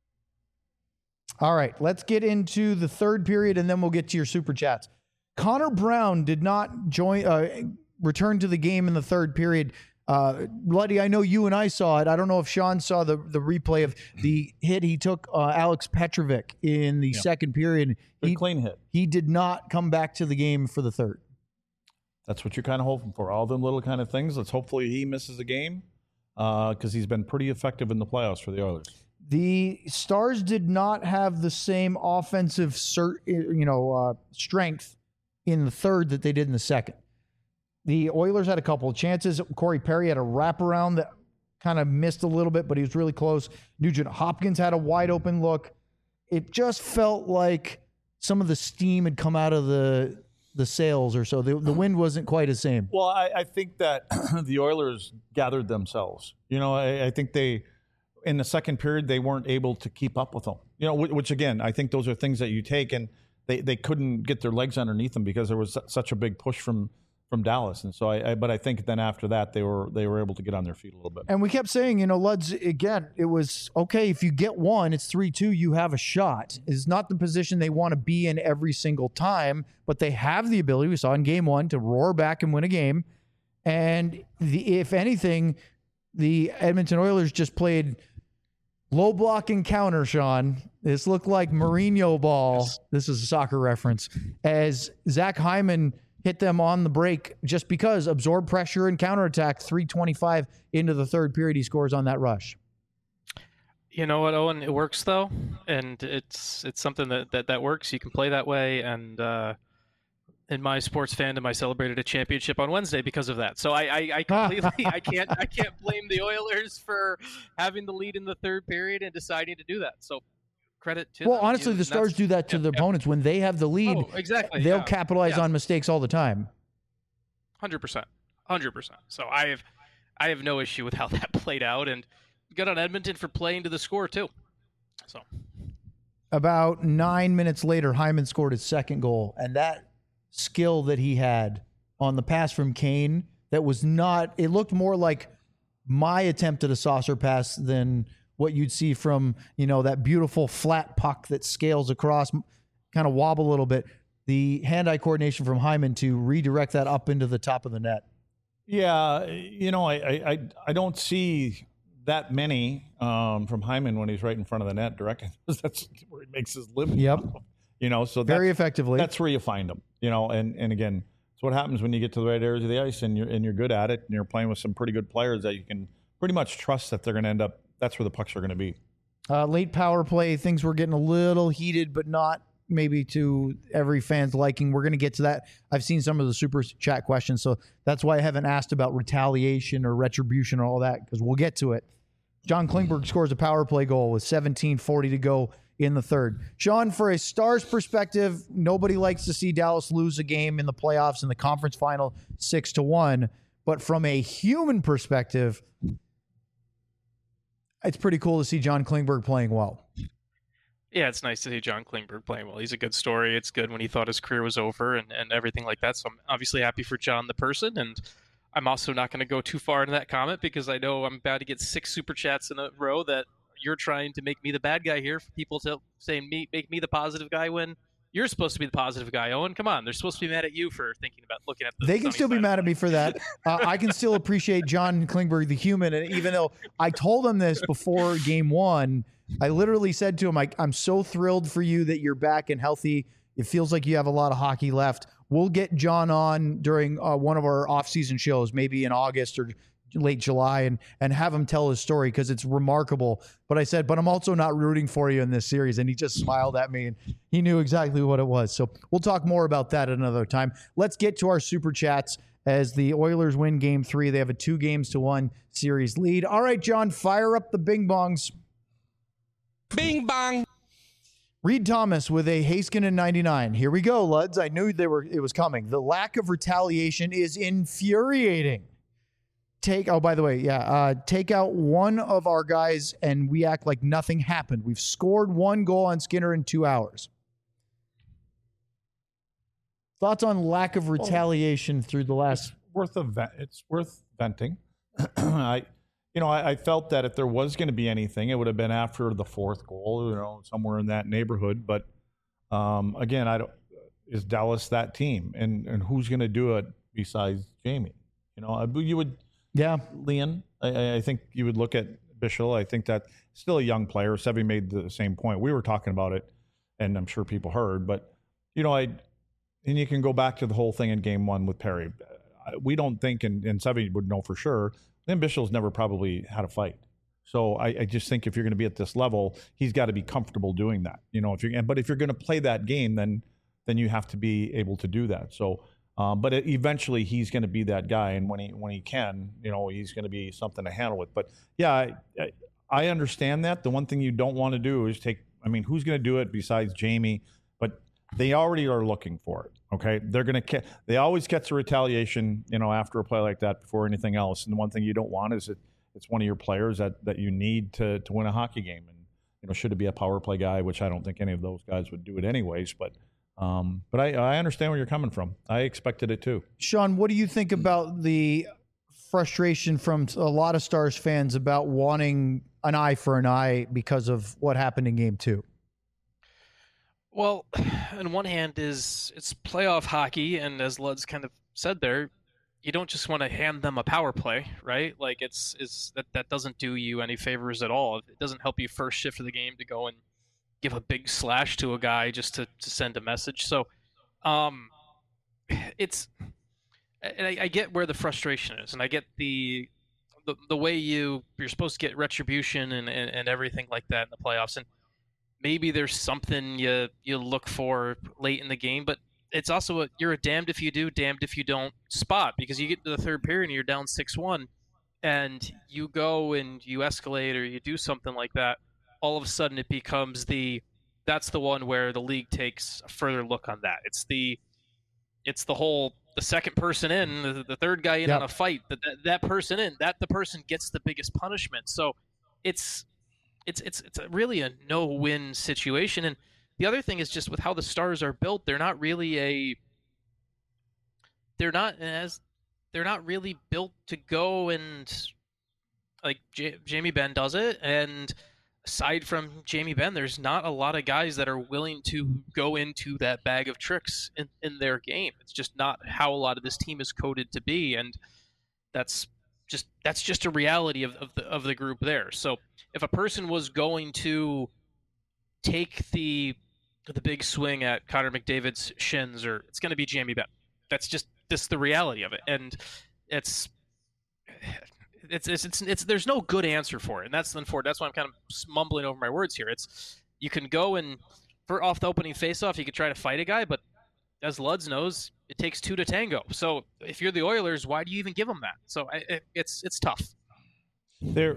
All right, let's get into the third period, and then we'll get to your super chats. Connor Brown did not join, uh, return to the game in the third period. Uh, Luddy, I know you and I saw it. I don't know if Sean saw the, the replay of the hit he took uh, Alex Petrovic in the Yeah. second period. Good He, clean hit. he did not come back to the game for the third. That's what you're kind of hoping for. All them little kind of things. Let's hopefully he misses a game because uh, he's been pretty effective in the playoffs for the Oilers. The Stars did not have the same offensive, cert, you know, uh, strength in the third that they did in the second. The Oilers had a couple of chances. Corey Perry had a wraparound that kind of missed a little bit, but he was really close. Nugent Hopkins had a wide open look. It just felt like some of the steam had come out of the the sails or so. The, the wind wasn't quite the same. Well, I, I think that the Oilers gathered themselves. You know, I, I think they, in the second period, they weren't able to keep up with them. You know, which, which again, I think those are things that you take, and they, they couldn't get their legs underneath them because there was such a big push from from Dallas. And so I, I but I think then after that they were they were able to get on their feet a little bit. And we kept saying, you know, Luds, again, it was okay if you get one, it's three two, you have a shot. It's not the position they want to be in every single time, but they have the ability, we saw in game one, to roar back and win a game. And the, if anything, the Edmonton Oilers just played low block and counter, Sean. This looked like Mourinho ball. This is a soccer reference. As Zach Hyman hit them on the break just because absorb pressure and counterattack. three twenty-five into the third period, he scores on that rush. You know what, Owen? It works though, and it's it's something that that, that works. You can play that way, and uh, in my sports fandom, I celebrated a championship on Wednesday because of that. So I, I, I completely, I can't, I can't blame the Oilers for having the lead in the third period and deciding to do that. So credit to well, them. honestly, You- the Stars that's- do that to yeah, their yeah. opponents when they have the lead. Oh, exactly. They'll yeah. capitalize Yeah. on mistakes all the time. Hundred percent, hundred percent. So I have, I have no issue with how that played out, and good on Edmonton for playing to the score too. So About nine minutes later, Hyman scored his second goal, and that skill that he had on the pass from Kane, that was not, it looked more like my attempt at a saucer pass than what you'd see from, you know, that beautiful flat puck that scales across, kind of wobble a little bit. The hand-eye coordination from Hyman to redirect that up into the top of the net. Yeah, you know, I I, I, I don't see that many um, from Hyman when he's right in front of the net directing. That's where he makes his living. Yep. You know, so Very that's, effectively. that's where you find them. You know, and and again, it's what happens when you get to the right areas of the ice and you're and you're good at it and you're playing with some pretty good players that you can pretty much trust that they're going to end up. That's where the pucks are going to be. Uh, late power play, things were getting a little heated, but not maybe to every fan's liking. We're going to get to that. I've seen some of the super chat questions, so that's why I haven't asked about retaliation or retribution or all that, because we'll get to it. John Klingberg scores a power play goal with seventeen forty to go in the third. Sean, for a Stars perspective, nobody likes to see Dallas lose a game in the playoffs in the conference final six to one, but from a human perspective, it's pretty cool to see John Klingberg playing well. yeah, it's nice to see John Klingberg playing well. He's a good story. It's good when he thought his career was over and, and everything like that. So I'm obviously happy for John the person, and I'm also not going to go too far into that comment because I know I'm about to get six super chats in a row that you're trying to make me the bad guy here, for people to saying me make me the positive guy when you're supposed to be the positive guy. Owen, come on, they're supposed to be mad at you for thinking about looking at the They can sunny still be side mad of at me life. for that. Uh, I can still appreciate John Klingberg, the human. And even though I told him this before game one, I literally said to him, I, I'm so thrilled for you that you're back and healthy. It feels like you have a lot of hockey left. We'll get John on during uh, one of our off-season shows, maybe in August or late July, and and have him tell his story because it's remarkable. But I said, but I'm also not rooting for you in this series. And he just smiled at me and he knew exactly what it was. So we'll talk more about that at another time. Let's get to our super chats as the Oilers win game three. They have a two games to one series lead. All right, John, fire up the bing bongs. Bing bong. Reed Thomas with a Haskinen ninety-nine. Here we go, Luds. I knew they were. It was coming. The lack of retaliation is infuriating. Take, oh, by the way, yeah, uh, take out one of our guys and we act like nothing happened. We've scored one goal on Skinner in two hours. Thoughts on lack of retaliation through the last... Worth of vent. It's worth venting. I, you know, I, I felt that if there was going to be anything, it would have been after the fourth goal, you know, somewhere in that neighborhood. But um, again, I don't. Is Dallas that team, and and who's going to do it besides Jamie? You know, I, you would. Yeah. Leon, I, I think you would look at Bichel. I think that still a young player. Sevy made the same point. We were talking about it, and I'm sure people heard. But you know, I and you can go back to the whole thing in Game One with Perry. We don't think, and, and Sevy would know for sure, then Bichel's never probably had a fight. So I, I just think if you're going to be at this level, he's got to be comfortable doing that. You know, if you're, but if you're going to play that game, then then you have to be able to do that. So. Um, but it, eventually he's going to be that guy, and when he when he can, you know, he's going to be something to handle with. But yeah, I, I, I understand that. The one thing you don't want to do is take. I mean, who's going to do it besides Jamie? But they already are looking for it. Okay, they're going to. They always get the retaliation, you know, after a play like that before anything else. And the one thing you don't want is it. It's one of your players that that you need to to win a hockey game. And you know, should it be a power play guy, which I don't think any of those guys would do it anyways, but. Um, but I, I understand where you're coming from. I expected it too. Sean, what do you think about the frustration from a lot of Stars fans about wanting an eye for an eye because of what happened in game two? Well, on one hand is it's playoff hockey, and as Lud's kind of said there, you don't just want to hand them a power play, right? Like it's it's that, that doesn't do you any favors at all. It doesn't help you first shift of the game to go and give a big slash to a guy just to, to send a message. So um, it's and I, I get where the frustration is, and I get the the, the way you you're supposed to get retribution and, and, and everything like that in the playoffs, and maybe there's something you you look for late in the game, but it's also a, you're a damned if you do, damned if you don't spot, because you get to the third period and you're down six one, and you go and you escalate or you do something like that. All of a sudden, it becomes the that's the one where the league takes a further look on that. It's the it's the whole the second person in, the, the third guy in Yep. on a fight, that, that that person in, that the person gets the biggest punishment. So it's it's it's it's a really a no-win situation. And the other thing is just with how the Stars are built, they're not really a they're not as they're not really built to go and like J- Jamie Benn does it, and aside from Jamie Benn, there's not a lot of guys that are willing to go into that bag of tricks in, in their game. It's just not how a lot of this team is coded to be, and that's just that's just a reality of, of the of the group there. So if a person was going to take the the big swing at Connor McDavid's shins, or it's going to be Jamie Benn. That's just this the reality of it, and it's. It's, it's it's it's there's no good answer for it, and that's unfortunate. That's why I'm kind of mumbling over my words here. It's you can go and for off the opening faceoff, you could try to fight a guy, but as Luds knows, it takes two to tango. So if you're the Oilers, why do you even give them that? So I, it, it's it's tough. There,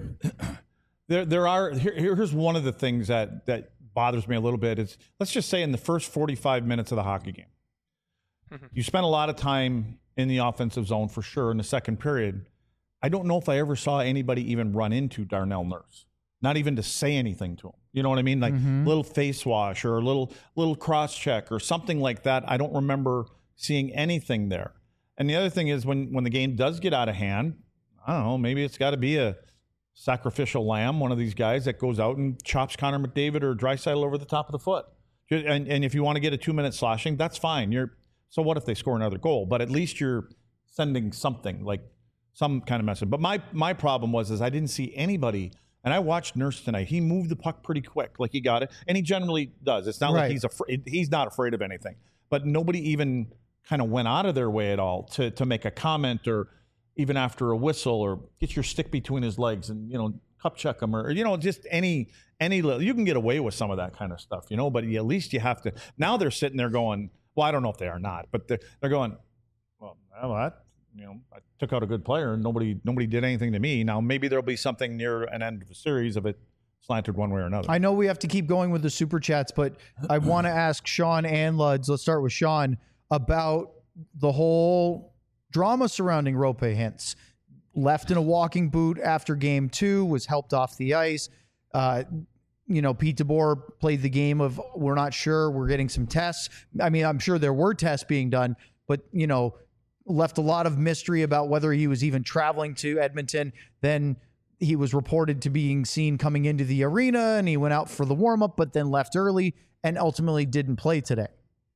there, there are. Here, here's one of the things that that bothers me a little bit is let's just say in the first forty-five minutes of the hockey game, mm-hmm. you spent a lot of time in the offensive zone for sure in the second period. I don't know if I ever saw anybody even run into Darnell Nurse, not even to say anything to him. You know what I mean? Like Mm-hmm. little face wash or a little little cross check or something like that. I don't remember seeing anything there. And the other thing is when when the game does get out of hand, I don't know, maybe it's got to be a sacrificial lamb, one of these guys that goes out and chops Connor McDavid or Draisaitl over the top of the foot. And and if you want to get a two minute slashing, that's fine. You're so what if they score another goal? But at least you're sending something like. Some kind of message. But my my problem was is I didn't see anybody, and I watched Nurse tonight. He moved the puck pretty quick, like he got it, and he generally does. It's not Right. like he's afraid. He's not afraid of anything. But nobody even kind of went out of their way at all to to make a comment or even after a whistle or get your stick between his legs and you know cup check him or you know just any any little. You can get away with some of that kind of stuff, you know. But at least you have to. Now they're sitting there going, well, I don't know if they are not, but they're, they're going, well, well that. You know, I took out a good player and nobody nobody did anything to me. Now, maybe there'll be something near an end of a series of it slanted one way or another. I know we have to keep going with the super chats, but I want to ask Sean and Luds. Let's start with Sean about the whole drama surrounding Roope Hintz. Left in a walking boot after game two, was helped off the ice. Uh, you know, Pete DeBoer played the game of we're not sure, we're getting some tests. I mean, I'm sure there were tests being done, but, you know, left a lot of mystery about whether he was even traveling to Edmonton. Then he was reported to being seen coming into the arena and he went out for the warm-up, but then left early and ultimately didn't play today.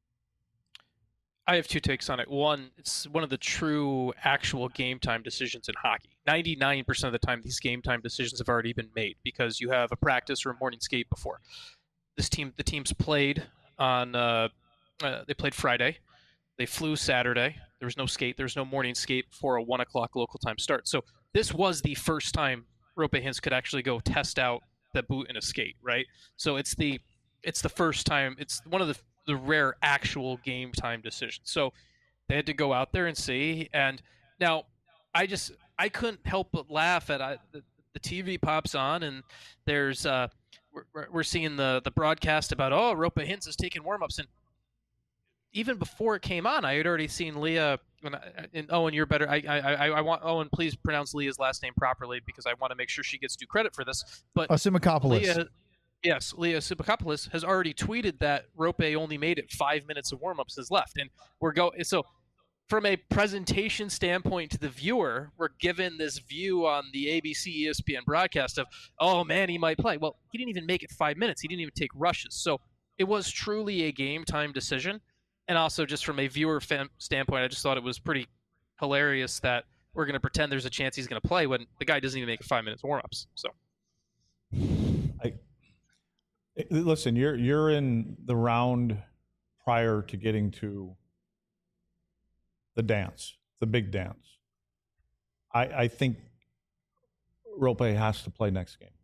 I have two takes on it. One, it's one of the true actual game time decisions in hockey. ninety-nine percent of the time, these game time decisions have already been made because you have a practice or a morning skate before. This team, the teams played on, uh, uh, they played Friday. They flew Saturday. There was no skate. There was no morning skate before a one o'clock local time start. So this was the first time Roope Hintz could actually go test out the boot and a skate, right? So it's the it's the first time. It's one of the the rare actual game time decisions. So they had to go out there and see. And now I just I couldn't help but laugh at I, the, the T V pops on and there's uh we're, we're seeing the the broadcast about oh Roope Hintz is taking warm-ups and even before it came on, I had already seen Leah. And, and Owen, you're better. I, I, I want Owen. Please pronounce Leah's last name properly because I want to make sure she gets due credit for this. But Asimakopoulos. Leah, yes, Leah Asimakopoulos has already tweeted that Roope only made it five minutes of warm-ups is left, and we're go. So, from a presentation standpoint to the viewer, we're given this view on the A B C E S P N broadcast of, oh man, he might play. Well, he didn't even make it five minutes. He didn't even take rushes. So it was truly a game time decision. And also, just from a viewer fan standpoint, I just thought it was pretty hilarious that we're going to pretend there's a chance he's going to play when the guy doesn't even make five minutes warm-ups. So, I, listen, you're you're in the round prior to getting to the dance, the big dance. I, I think Roope has to play next game.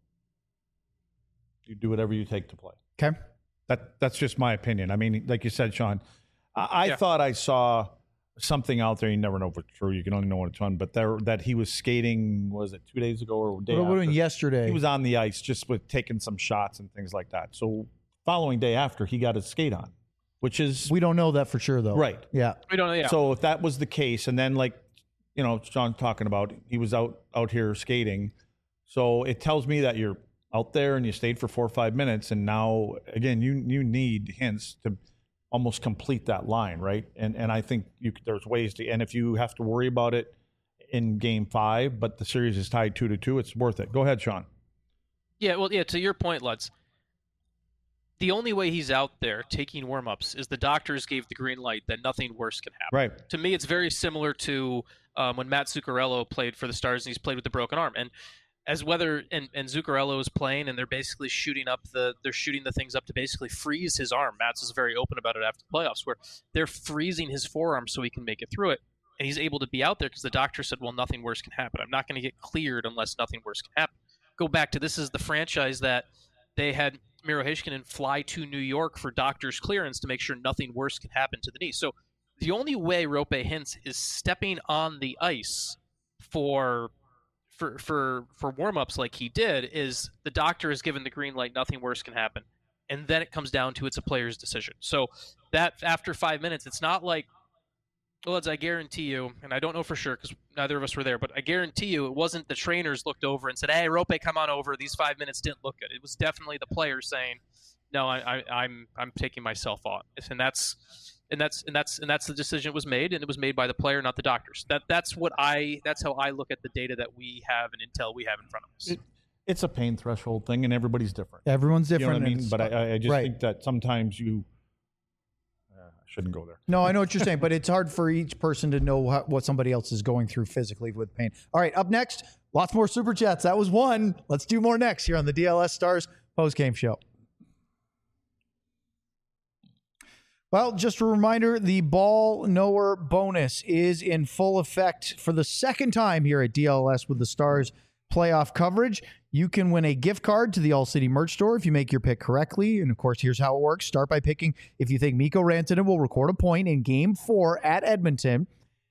You do whatever you take to play. Okay. That that's just my opinion. I mean, like you said, Sean. I, I Yeah. thought I saw something out there. You never know if it's true. You can only know when it's on. But there, that he was skating. Was it two days ago or a day What after? about yesterday? He was on the ice just with taking some shots and things like that. So following day after, he got his skate on, which is we don't know that for sure, though. right. Yeah. We don't know. Yeah. So if that was the case, and then like, you know, Sean talking about, he was out out here skating. So it tells me that you're out there and you stayed for four or five minutes, and now again, you you need Hintz to almost complete that line, right? And and I think you there's ways to, and if you have to worry about it in game five, but the series is tied two to two, it's worth it. Go ahead, Sean. Yeah, well, yeah, to your point, Lutz, the only way he's out there taking warm-ups is the doctors gave the green light that nothing worse can happen. Right. To me, it's very similar to um, when Matt Zuccarello played for the Stars and he's played with the broken arm. And as whether and, and Zuccarello is playing and they're basically shooting up the they're shooting the things up to basically freeze his arm. Matt's is very open about it after the playoffs, where they're freezing his forearm so he can make it through it. And he's able to be out there because the doctor said, well, nothing worse can happen. I'm not going to get cleared unless nothing worse can happen. Go back to this is the franchise that they had Miro Heiskanen fly to New York for doctor's clearance to make sure nothing worse can happen to the knee. So the only way Roope Hintz is stepping on the ice for for for for warm-ups like he did is the doctor is given the green light, nothing worse can happen. And then it comes down to it's a player's decision. So that after five minutes, it's not like, well, as I guarantee you, and I don't know for sure because neither of us were there, but I guarantee you it wasn't the trainers looked over and said, hey, Roope, come on over. These five minutes didn't look good. It was definitely the players saying, no, I, I, I'm I'm taking myself off. And that's and that's and that's and that's the decision that was made, and it was made by the player, not the doctors. That that's what I that's how I look at the data that we have and intel we have in front of us. It, it's a pain threshold thing, and everybody's different. Everyone's You know different. what I and mean? it's- But I, I just right. think that sometimes you uh, I shouldn't go there. No, I know what you're saying, but it's hard for each person to know how, what somebody else is going through physically with pain. All right, up next, lots more Super Chats. That was one. Let's do more next here on the D L S Stars postgame show. Well, just a reminder, the ball knower bonus is in full effect for the second time here at D L S with the Stars playoff coverage. You can win a gift card to the All City merch store if you make your pick correctly. And of course, here's how it works. Start by picking if you think Mikko Rantanen will record a point in game four at Edmonton.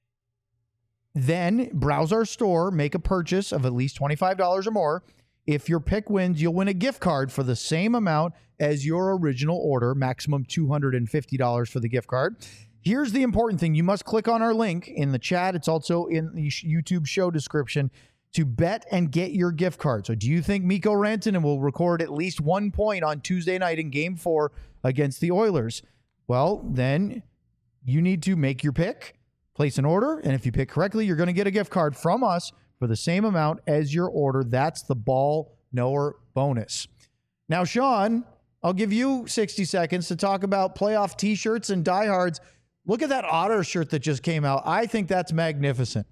Then browse our store, make a purchase of at least twenty-five dollars or more. If your pick wins, you'll win a gift card for the same amount as your original order, maximum two hundred fifty dollars for the gift card. Here's the important thing. You must click on our link in the chat. It's also in the YouTube show description to bet and get your gift card. So do you think Mikko Rantanen will record at least one point on Tuesday night in game four against the Oilers? Well, then you need to make your pick, place an order, and if you pick correctly, you're going to get a gift card from us for the same amount as your order. That's the ball knower bonus. Now, Sean, I'll give you sixty seconds to talk about playoff t-shirts and diehards. Look at that Otter shirt that just came out. I think that's magnificent.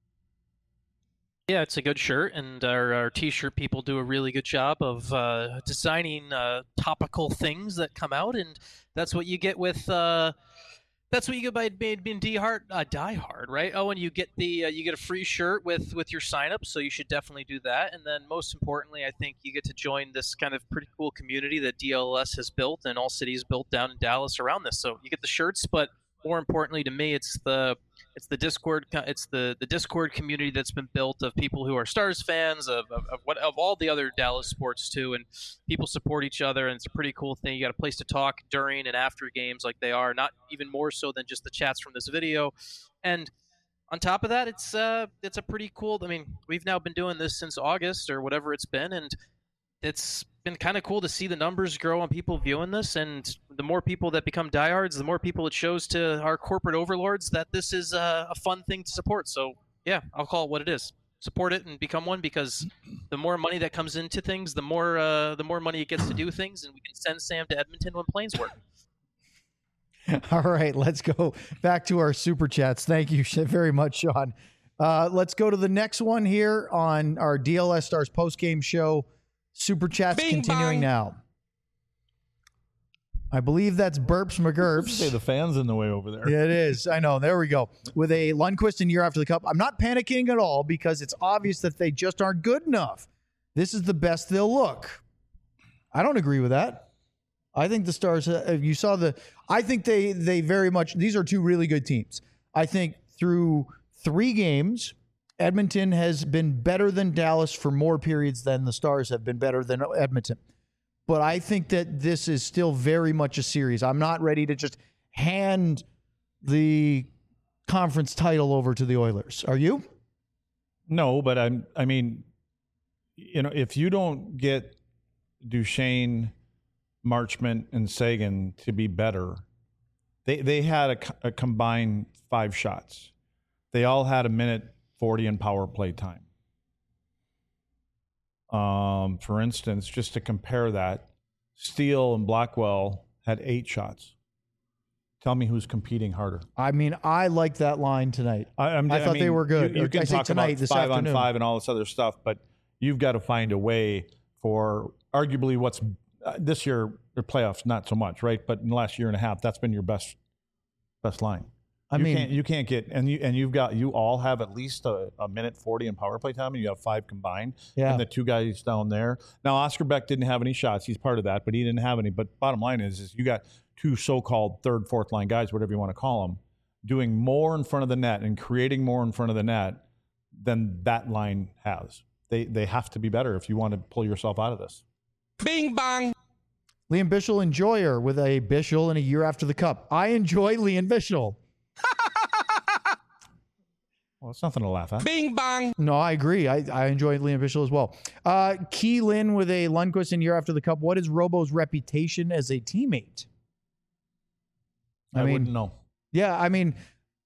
Yeah, it's a good shirt, and our, our t-shirt people do a really good job of uh, designing uh, topical things that come out, and that's what you get with uh, that's what you get by being die hard, uh, die hard, right? Oh, and you get the uh, you get a free shirt with with your sign up, so you should definitely do that. And then most importantly, I think you get to join this kind of pretty cool community that D L S has built and All City's built down in Dallas around this. So you get the shirts, but more importantly to me, it's the it's the Discord it's the, the Discord community that's been built of people who are Stars fans of of, of what of all the other Dallas sports too, and people support each other, and it's a pretty cool thing. You got a place to talk during and after games like they are, not even more so than just the chats from this video. And on top of that, it's uh it's a pretty cool. I mean, we've now been doing this since August or whatever it's been, and it's been kind of cool to see the numbers grow on people viewing this, and the more people that become diehards, the more people it shows to our corporate overlords that this is a, a fun thing to support. So yeah, I'll call it what it is. Support it and become one, because the more money that comes into things, the more uh, the more money it gets to do things, and we can send Sam to Edmonton when planes work. All right, let's go back to our super chats. Thank you very much, Sean. Uh, let's go to the next one here on our D L S Stars postgame show. Super chats Bing continuing bong. now. I believe that's Burps McGurps. Say the fans in the way over there. Yeah, it is. I know. There we go. With a Lundqvist in year after the cup. I'm not panicking at all because it's obvious that they just aren't good enough. This is the best they'll look. I don't agree with that. I think the Stars, uh, you saw the, I think they, they very much, these are two really good teams. I think through three games, Edmonton has been better than Dallas for more periods than the Stars have been better than Edmonton. But I think that this is still very much a series. I'm not ready to just hand the conference title over to the Oilers. Are you? No, but I'm, I mean, you know, if you don't get Duchesne, Marchment, and Sagan to be better, they they had a, a combined five shots. They all had a minute forty in power play time. Um, for instance, just to compare that, Steele and Blackwell had eight shots. Tell me who's competing harder. I mean, I like that line tonight. I, I'm, I thought I mean, they were good. You, you Or can I say talk tonight, about this five afternoon. on five and all this other stuff, but you've got to find a way for arguably what's uh, this year, the playoffs, not so much, right? But in the last year and a half, that's been your best best line. I you mean, can't, you can't get and you and you've got you all have at least a, a minute forty in power play time, and you have five combined. Yeah. And the two guys down there. Now Oscar Beck didn't have any shots; he's part of that, but he didn't have any. But bottom line is, is you got two so-called third, fourth line guys, whatever you want to call them, doing more in front of the net and creating more in front of the net than that line has. They they have to be better if you want to pull yourself out of this. Bing bang. Liam Bichel enjoyer with a Bichel in a year after the Cup. I enjoy Liam Bichel. Well, it's nothing to laugh at. Bing bang. No, I agree. I, I enjoy Liam Bichel as well. Uh, Keelan with a Lundqvist in year after the Cup. What is Robo's reputation as a teammate? I, I mean, wouldn't know. Yeah, I mean,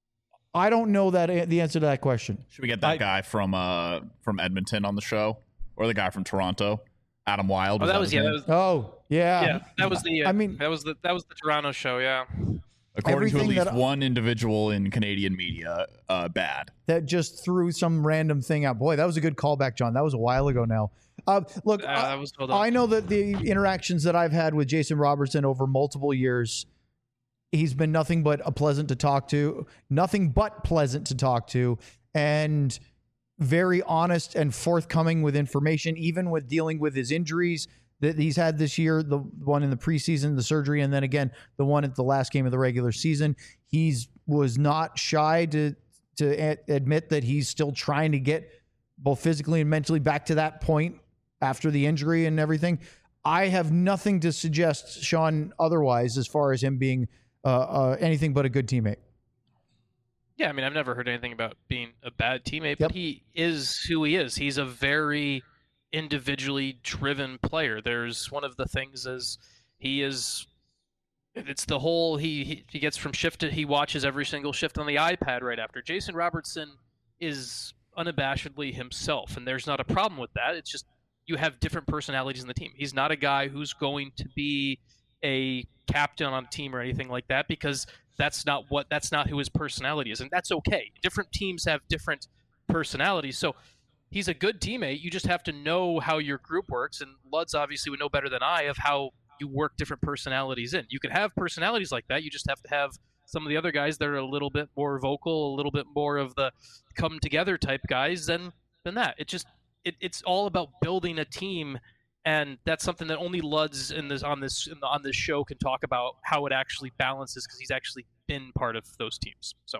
I don't know that the answer to that question. Should we get that I- guy from uh from Edmonton on the show, or the guy from Toronto, Adam Wild? Oh, that was his yeah. name? That was, Oh, yeah. yeah, that was the. Uh, I mean- that was the that was the Toronto show. Yeah. According to at everything least that- one individual in Canadian media, uh, bad. That just threw some random thing out. Boy, that was a good callback, John. That was a while ago now. Uh, look, Uh, I- that was well done. I know that the interactions that I've had with Jason Robertson over multiple years, he's been nothing but a pleasant to talk to, nothing but pleasant to talk to, and very honest and forthcoming with information, even with dealing with his injuries that he's had this year, the one in the preseason, the surgery, and then again, the one at the last game of the regular season. He's was not shy to to a- admit that he's still trying to get both physically and mentally back to that point after the injury and everything. I have nothing to suggest, Sean, otherwise, as far as him being uh, uh, anything but a good teammate. Yeah, I mean, I've never heard anything about being a bad teammate, Yep. but he is who he is. He's a very individually driven player. There's one of the things is he is it's the whole he, he he gets from shift to he watches every single shift on the iPad right after. Jason Robertson is unabashedly himself, and there's not a problem with that. It's just you have different personalities in the team. He's not a guy who's going to be a captain on a team or anything like that, because that's not what that's not who his personality is, and that's okay. Different teams have different personalities, so he's a good teammate. You just have to know how your group works, and Luds obviously would know better than I of how you work different personalities in. You can have personalities like that. You just have to have some of the other guys that are a little bit more vocal, a little bit more of the come together type guys than than that. It just it, it's all about building a team, and that's something that only Luds in this on this in the, on this show can talk about how it actually balances, because he's actually been part of those teams. So,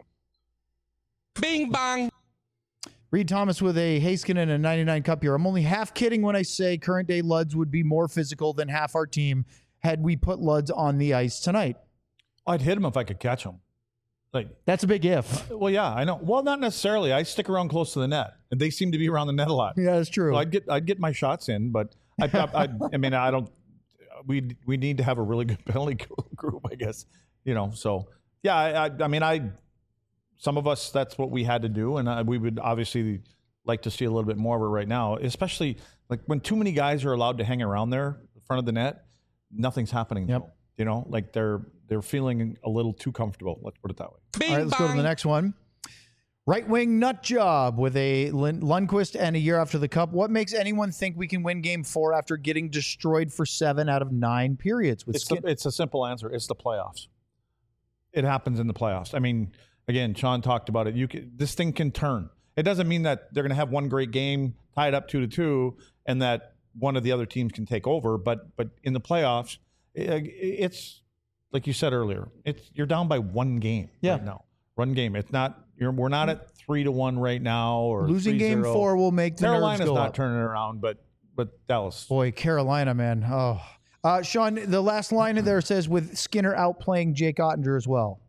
Bing bang. Reed Thomas with a Haskin and a ninety-nine Cup here. I'm only half kidding when I say current day Luds would be more physical than half our team had we put Luds on the ice tonight. I'd hit him if I could catch him. Like, That's a big if. well, yeah, I know. Well, not necessarily. I stick around close to the net, and they seem to be around the net a lot. Yeah, that's true. So I'd get I'd get my shots in, but I I, I, I mean I don't. We we need to have a really good penalty group, I guess. You know, so yeah, I I, I mean I. Some of us, that's what we had to do, and uh, we would obviously like to see a little bit more of it right now, especially like when too many guys are allowed to hang around there in front of the net, nothing's happening. Yep. Though, you know, like they're they're feeling a little too comfortable. Let's put it that way. Bing All right, let's bang. go to the next one. Right wing nut job with a Lund- Lundqvist and a year after the Cup. What makes anyone think we can win game four after getting destroyed for seven out of nine periods? With It's, skin- the, it's a simple answer. It's the playoffs. It happens in the playoffs. I mean, again, Sean talked about it. You can, this thing can turn. It doesn't mean that they're going to have one great game, tie it up two to two, and that one of the other teams can take over. But but in the playoffs, it's like you said earlier. It's you're down by one game Yeah. right now. One game. It's not. You're, we're not at three to one right now. Or Losing game four will make the Carolina's nerves go not up. turning it around, but but Dallas. Boy, Carolina, man. Oh, uh, Sean, the last line in there says with Skinner outplaying Jake Ottinger as well.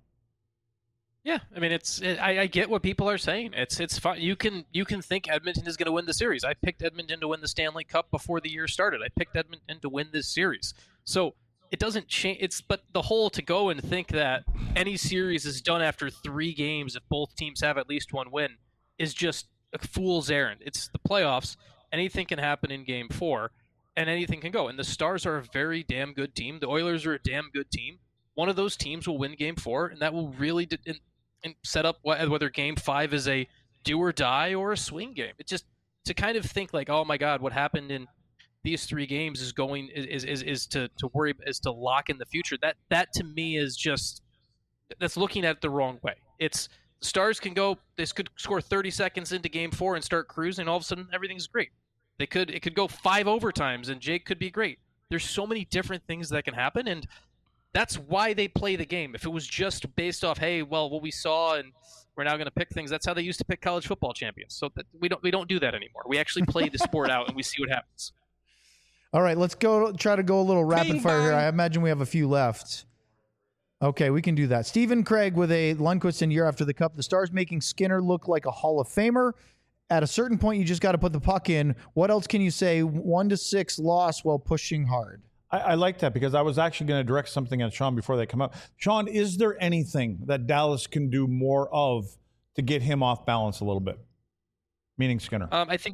Yeah, I mean, it's it, I, I get what people are saying. It's it's fine. You can you can think Edmonton is going to win the series. I picked Edmonton to win the Stanley Cup before the year started. I picked Edmonton to win this series. So it doesn't change. It's but the whole to go and think that any series is done after three games if both teams have at least one win is just a fool's errand. It's the playoffs. Anything can happen in Game Four, and anything can go. And the Stars are a very damn good team. The Oilers are a damn good team. One of those teams will win Game Four, and that will really. De- and, and set up whether Game Five is a do or die or a swing game. It just to kind of think like, oh my God, what happened in these three games is going is is, is to, to worry is to lock in the future. That that to me is just that's looking at it the wrong way. It's Stars can go they could score thirty seconds into Game Four and start cruising, and all of a sudden everything's great. They could it could go five overtimes and Jake could be great. There's so many different things that can happen, and that's why they play the game. If it was just based off, hey, well, what we saw and we're now going to pick things, that's how they used to pick college football champions. So that we don't we don't do that anymore. We actually play the sport out and we see what happens. All right, let's go try to go a little rapid Bing fire here. bong. I imagine we have a few left. Okay, we can do that. Stephen Craig with a Lundqvist in year after the Cup. The Stars making Skinner look like a Hall of Famer. At a certain point, you just got to put the puck in. What else can you say? One to six loss while pushing hard. I, I like that because I was actually going to direct something at Sean before they come up. Sean, is there anything that Dallas can do more of to get him off balance a little bit? Meaning Skinner. Um, I think,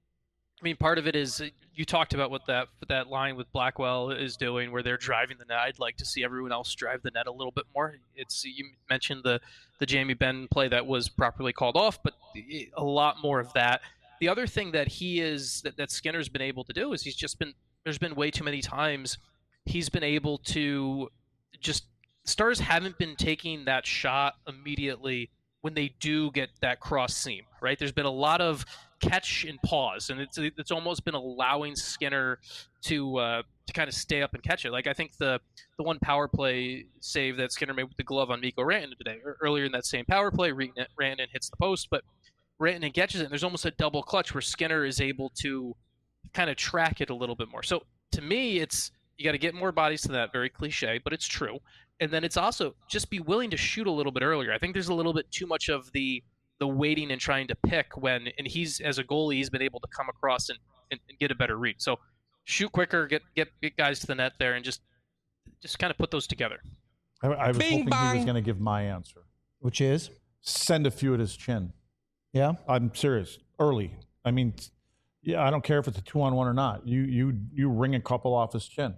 I mean, part of it is you talked about what that what that line with Blackwell is doing, where they're driving the net. I'd like to see everyone else drive the net a little bit more. It's you mentioned the the Jamie Benn play that was properly called off, but a lot more of that. The other thing that he is that, that Skinner's been able to do is he's just been there's been way too many times he's been able to just Stars haven't been taking that shot immediately when they do get that cross seam, right? There's been a lot of catch and pause, and it's it's almost been allowing Skinner to uh, to kind of stay up and catch it. Like I think the the one power play save that Skinner made with the glove on Mikko Rantanen today, or earlier in that same power play, Rantanen hits the post, but Rantanen catches it, and there's almost a double clutch where Skinner is able to kind of track it a little bit more. So to me, it's you got to get more bodies to that. Very cliche, but it's true. And then it's also just be willing to shoot a little bit earlier. I think there's a little bit too much of the the waiting and trying to pick when, and he's as a goalie, he's been able to come across and, and, and get a better read. So shoot quicker, get, get get guys to the net there, and just just kind of put those together. I, I was Bing hoping he bong. was going to give my answer. Which is? Send a few at his chin. Yeah? I'm serious. Early. I mean, yeah, I don't care if it's a two on one or not. You you you ring a couple off his chin.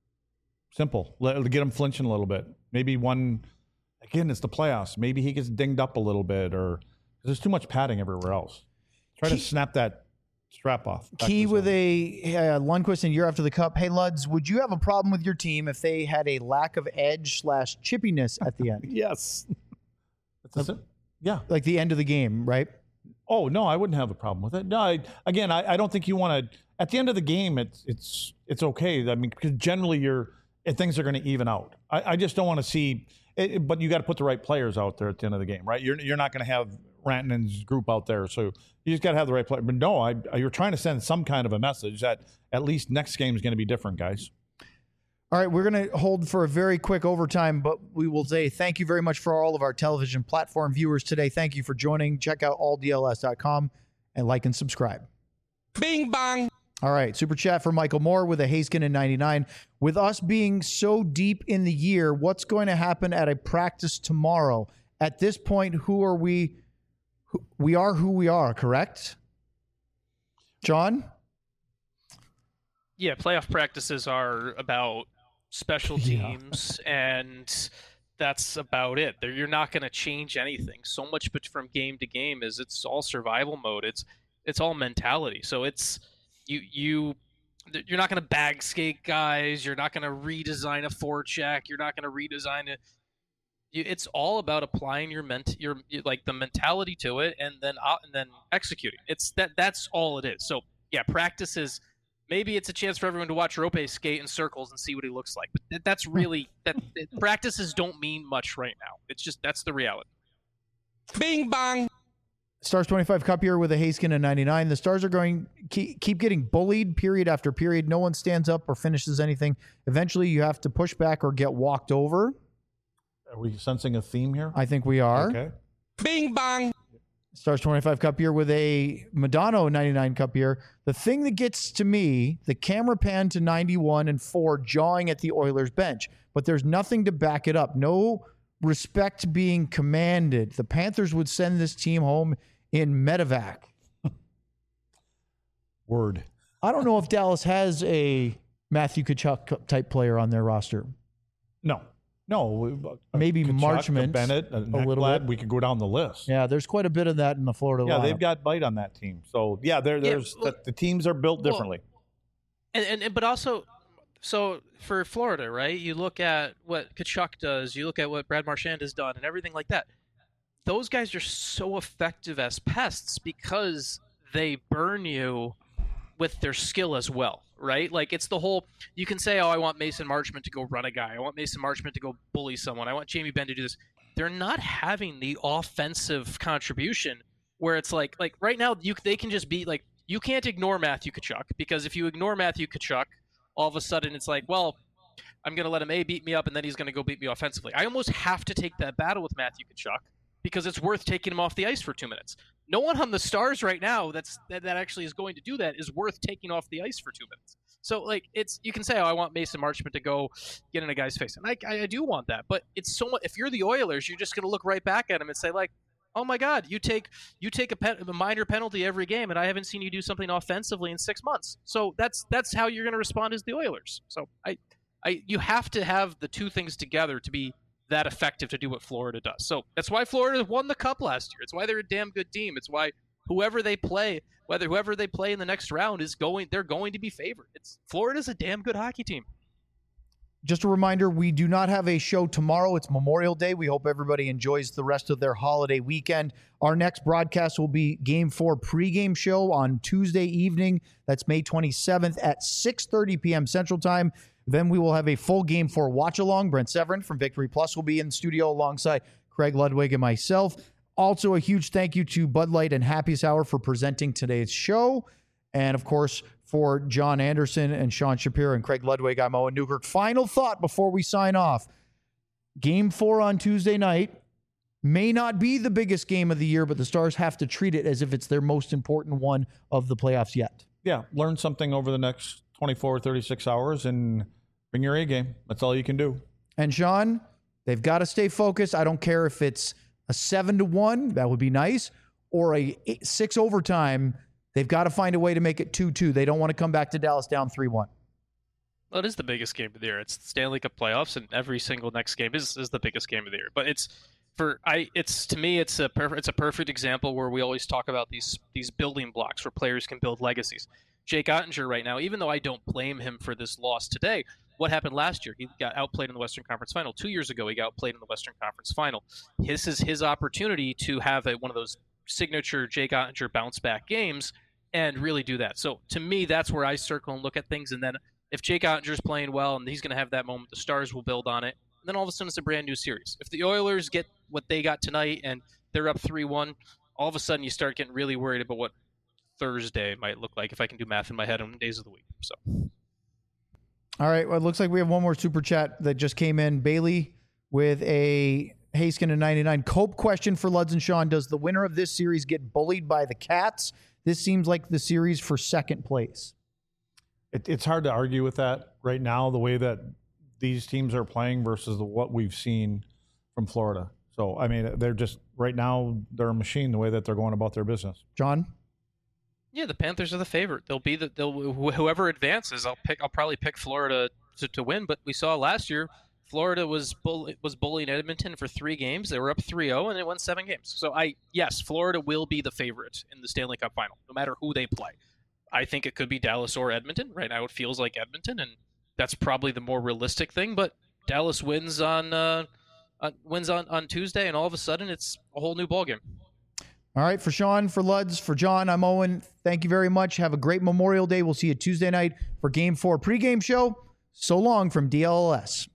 Simple. Let, get him flinching a little bit. Maybe one. Again, it's the playoffs. Maybe he gets dinged up a little bit, or there's too much padding everywhere else. Try Key, to snap that strap off. Key with a uh, Lundqvist in year after the Cup. Hey, Luds, would you have a problem with your team if they had a lack of edge slash chippiness at the end? Yes. That's it. Yeah. Like the end of the game, right? Oh no, I wouldn't have a problem with it. No, I, again, I, I don't think you want to. At the end of the game, it's it's it's okay. I mean, because generally you're things are going to even out. I, I just don't want to see. It, but you got to put the right players out there at the end of the game, right? You're you're not going to have Rantanen's group out there, so you just got to have the right player. But no, I, you're trying to send some kind of a message that at least next game is going to be different, guys. All right, we're going to hold for a very quick overtime, but we will say thank you very much for all of our television platform viewers today. Thank you for joining. Check out all D L S dot com and like and subscribe. Bing bong. All right, super chat for Michael Moore with a Haskin in ninety-nine. With us being so deep in the year, what's going to happen at a practice tomorrow? At this point, who are we? Who, we are who we are, correct? John? Yeah, playoff practices are about special teams, yeah. and that's about it. They're, you're not going to change anything. So much but from game to game is it's all survival mode. It's it's all mentality. So it's you you you're not going to bag skate guys. You're not going to redesign a forecheck. You're not going to redesign it. It's all about applying your ment your like the mentality to it, and then uh, and then executing. It's that that's all it is. So yeah, practice is maybe it's a chance for everyone to watch Rope skate in circles and see what he looks like. But th- that's really that practices don't mean much right now. It's just that's the reality. Bing bang. Stars twenty-five Cup here with a Haskin and ninety-nine. The Stars are going keep, keep getting bullied period after period. No one stands up or finishes anything. Eventually, you have to push back or get walked over. Are we sensing a theme here? I think we are. Okay. Bing bang. Stars twenty-five Cup year with a Madonna ninety-nine Cup year. The thing that gets to me, the camera pan to ninety-one and four jawing at the Oilers bench, but there's nothing to back it up. No respect being commanded. The Panthers would send this team home in medevac. Word. I don't know if Dallas has a Matthew Tkachuk type player on their roster. No. No. uh, Maybe Tkachuk, a Marchment, Bennett, a, a little Ekblad, bit. we could go down the list. Yeah, there's quite a bit of that in the Florida Yeah, lineup. they've got bite on that team. So, yeah, there, Yeah, there's well- the, the teams are built well, differently. And, and, and but also, so for Florida, right? You look at what Tkachuk does. You look at what Brad Marchand has done, and everything like that. Those guys are so effective as pests because they burn you with their skill as well, right? Like it's the whole. You can say, "Oh, I want Mason Marchment to go run a guy. I want Mason Marchment to go bully someone. I want Jamie Benn to do this." They're not having the offensive contribution where it's like, like right now, you they can just be like, you can't ignore Matthew Tkachuk because if you ignore Matthew Tkachuk, all of a sudden it's like, well, I'm going to let him A, beat me up, and then he's going to go beat me offensively. I almost have to take that battle with Matthew Tkachuk because it's worth taking him off the ice for two minutes. No one on the Stars right now that's that, that actually is going to do that is worth taking off the ice for two minutes. So, like, it's you can say, oh, I want Mason Marchment to go get in a guy's face. And I, I, I do want that. But it's so much. If you're the Oilers, you're just going to look right back at him and say, like, oh, my God, you take you take a, pen, a minor penalty every game, and I haven't seen you do something offensively in six months. So that's that's how you're going to respond as the Oilers. So I, I you have to have the two things together to be that effective to do what Florida does. So that's why Florida won the Cup last year. It's why they're a damn good team. It's why whoever they play, whether whoever they play in the next round is going, they're going to be favored. It's Florida's a damn good hockey team. Just a reminder, we do not have a show tomorrow. It's Memorial Day. We hope everybody enjoys the rest of their holiday weekend. Our next broadcast will be Game four pregame show on Tuesday evening. That's May twenty-seventh at six thirty p.m. Central Time. Then we will have a full Game four watch-along. Brent Severin from Victory Plus will be in the studio alongside Craig Ludwig and myself. Also, a huge thank you to Bud Light and Happy Hour for presenting today's show. And, of course, for John Anderson and Sean Shapiro and Craig Ludwig, I'm Owen Newkirk. Final thought before we sign off. Game four on Tuesday night may not be the biggest game of the year, but the Stars have to treat it as if it's their most important one of the playoffs yet. Yeah, learn something over the next twenty-four, thirty-six hours and bring your A game. That's all you can do. And, Sean, they've got to stay focused. I don't care if it's a seven to one, that would be nice, or a eight, six overtime. They've got to find a way to make it two two. They don't want to come back to Dallas down three one. Well, it is the biggest game of the year. It's the Stanley Cup playoffs, and every single next game is, is the biggest game of the year. But it's for I. It's to me, it's a perfect. It's a perfect example where we always talk about these these building blocks where players can build legacies. Jake Ottinger right now, even though I don't blame him for this loss today, what happened last year? He got outplayed in the Western Conference Final. Two years ago, he got outplayed in the Western Conference Final. This is his opportunity to have a, one of those signature Jake Ottinger bounce back games and really do that. So to me, that's where I circle and look at things. And then if Jake Ottinger's playing well and he's going to have that moment, the Stars will build on it. And then all of a sudden, it's a brand new series. If the Oilers get what they got tonight and they're up three one, all of a sudden you start getting really worried about what Thursday might look like if I can do math in my head on days of the week. So, all right. Well, it looks like we have one more super chat that just came in. Bailey with a Haskin and ninety-nine Cope question for Luds and Sean. Does the winner of this series get bullied by the Cats? This seems like the series for second place. It, it's hard to argue with that right now, the way that these teams are playing versus the, what we've seen from Florida. So, I mean, they're just, right now, they're a machine the way that they're going about their business. John? yeah, the Panthers are the favorite. They'll be the they'll wh- whoever advances. I'll pick. I'll probably pick Florida to, to win. But we saw last year, Florida was bull, was bullying Edmonton for three games. They were up three oh and they won seven games. So I yes, Florida will be the favorite in the Stanley Cup final, no matter who they play. I think it could be Dallas or Edmonton. Right now, it feels like Edmonton, and that's probably the more realistic thing. But Dallas wins on uh, uh, wins on, on Tuesday, and all of a sudden, it's a whole new ballgame. All right, for Sean, for Luds, for John, I'm Owen. Thank you very much. Have a great Memorial Day. We'll see you Tuesday night for Game four pregame show. So long from D L L S.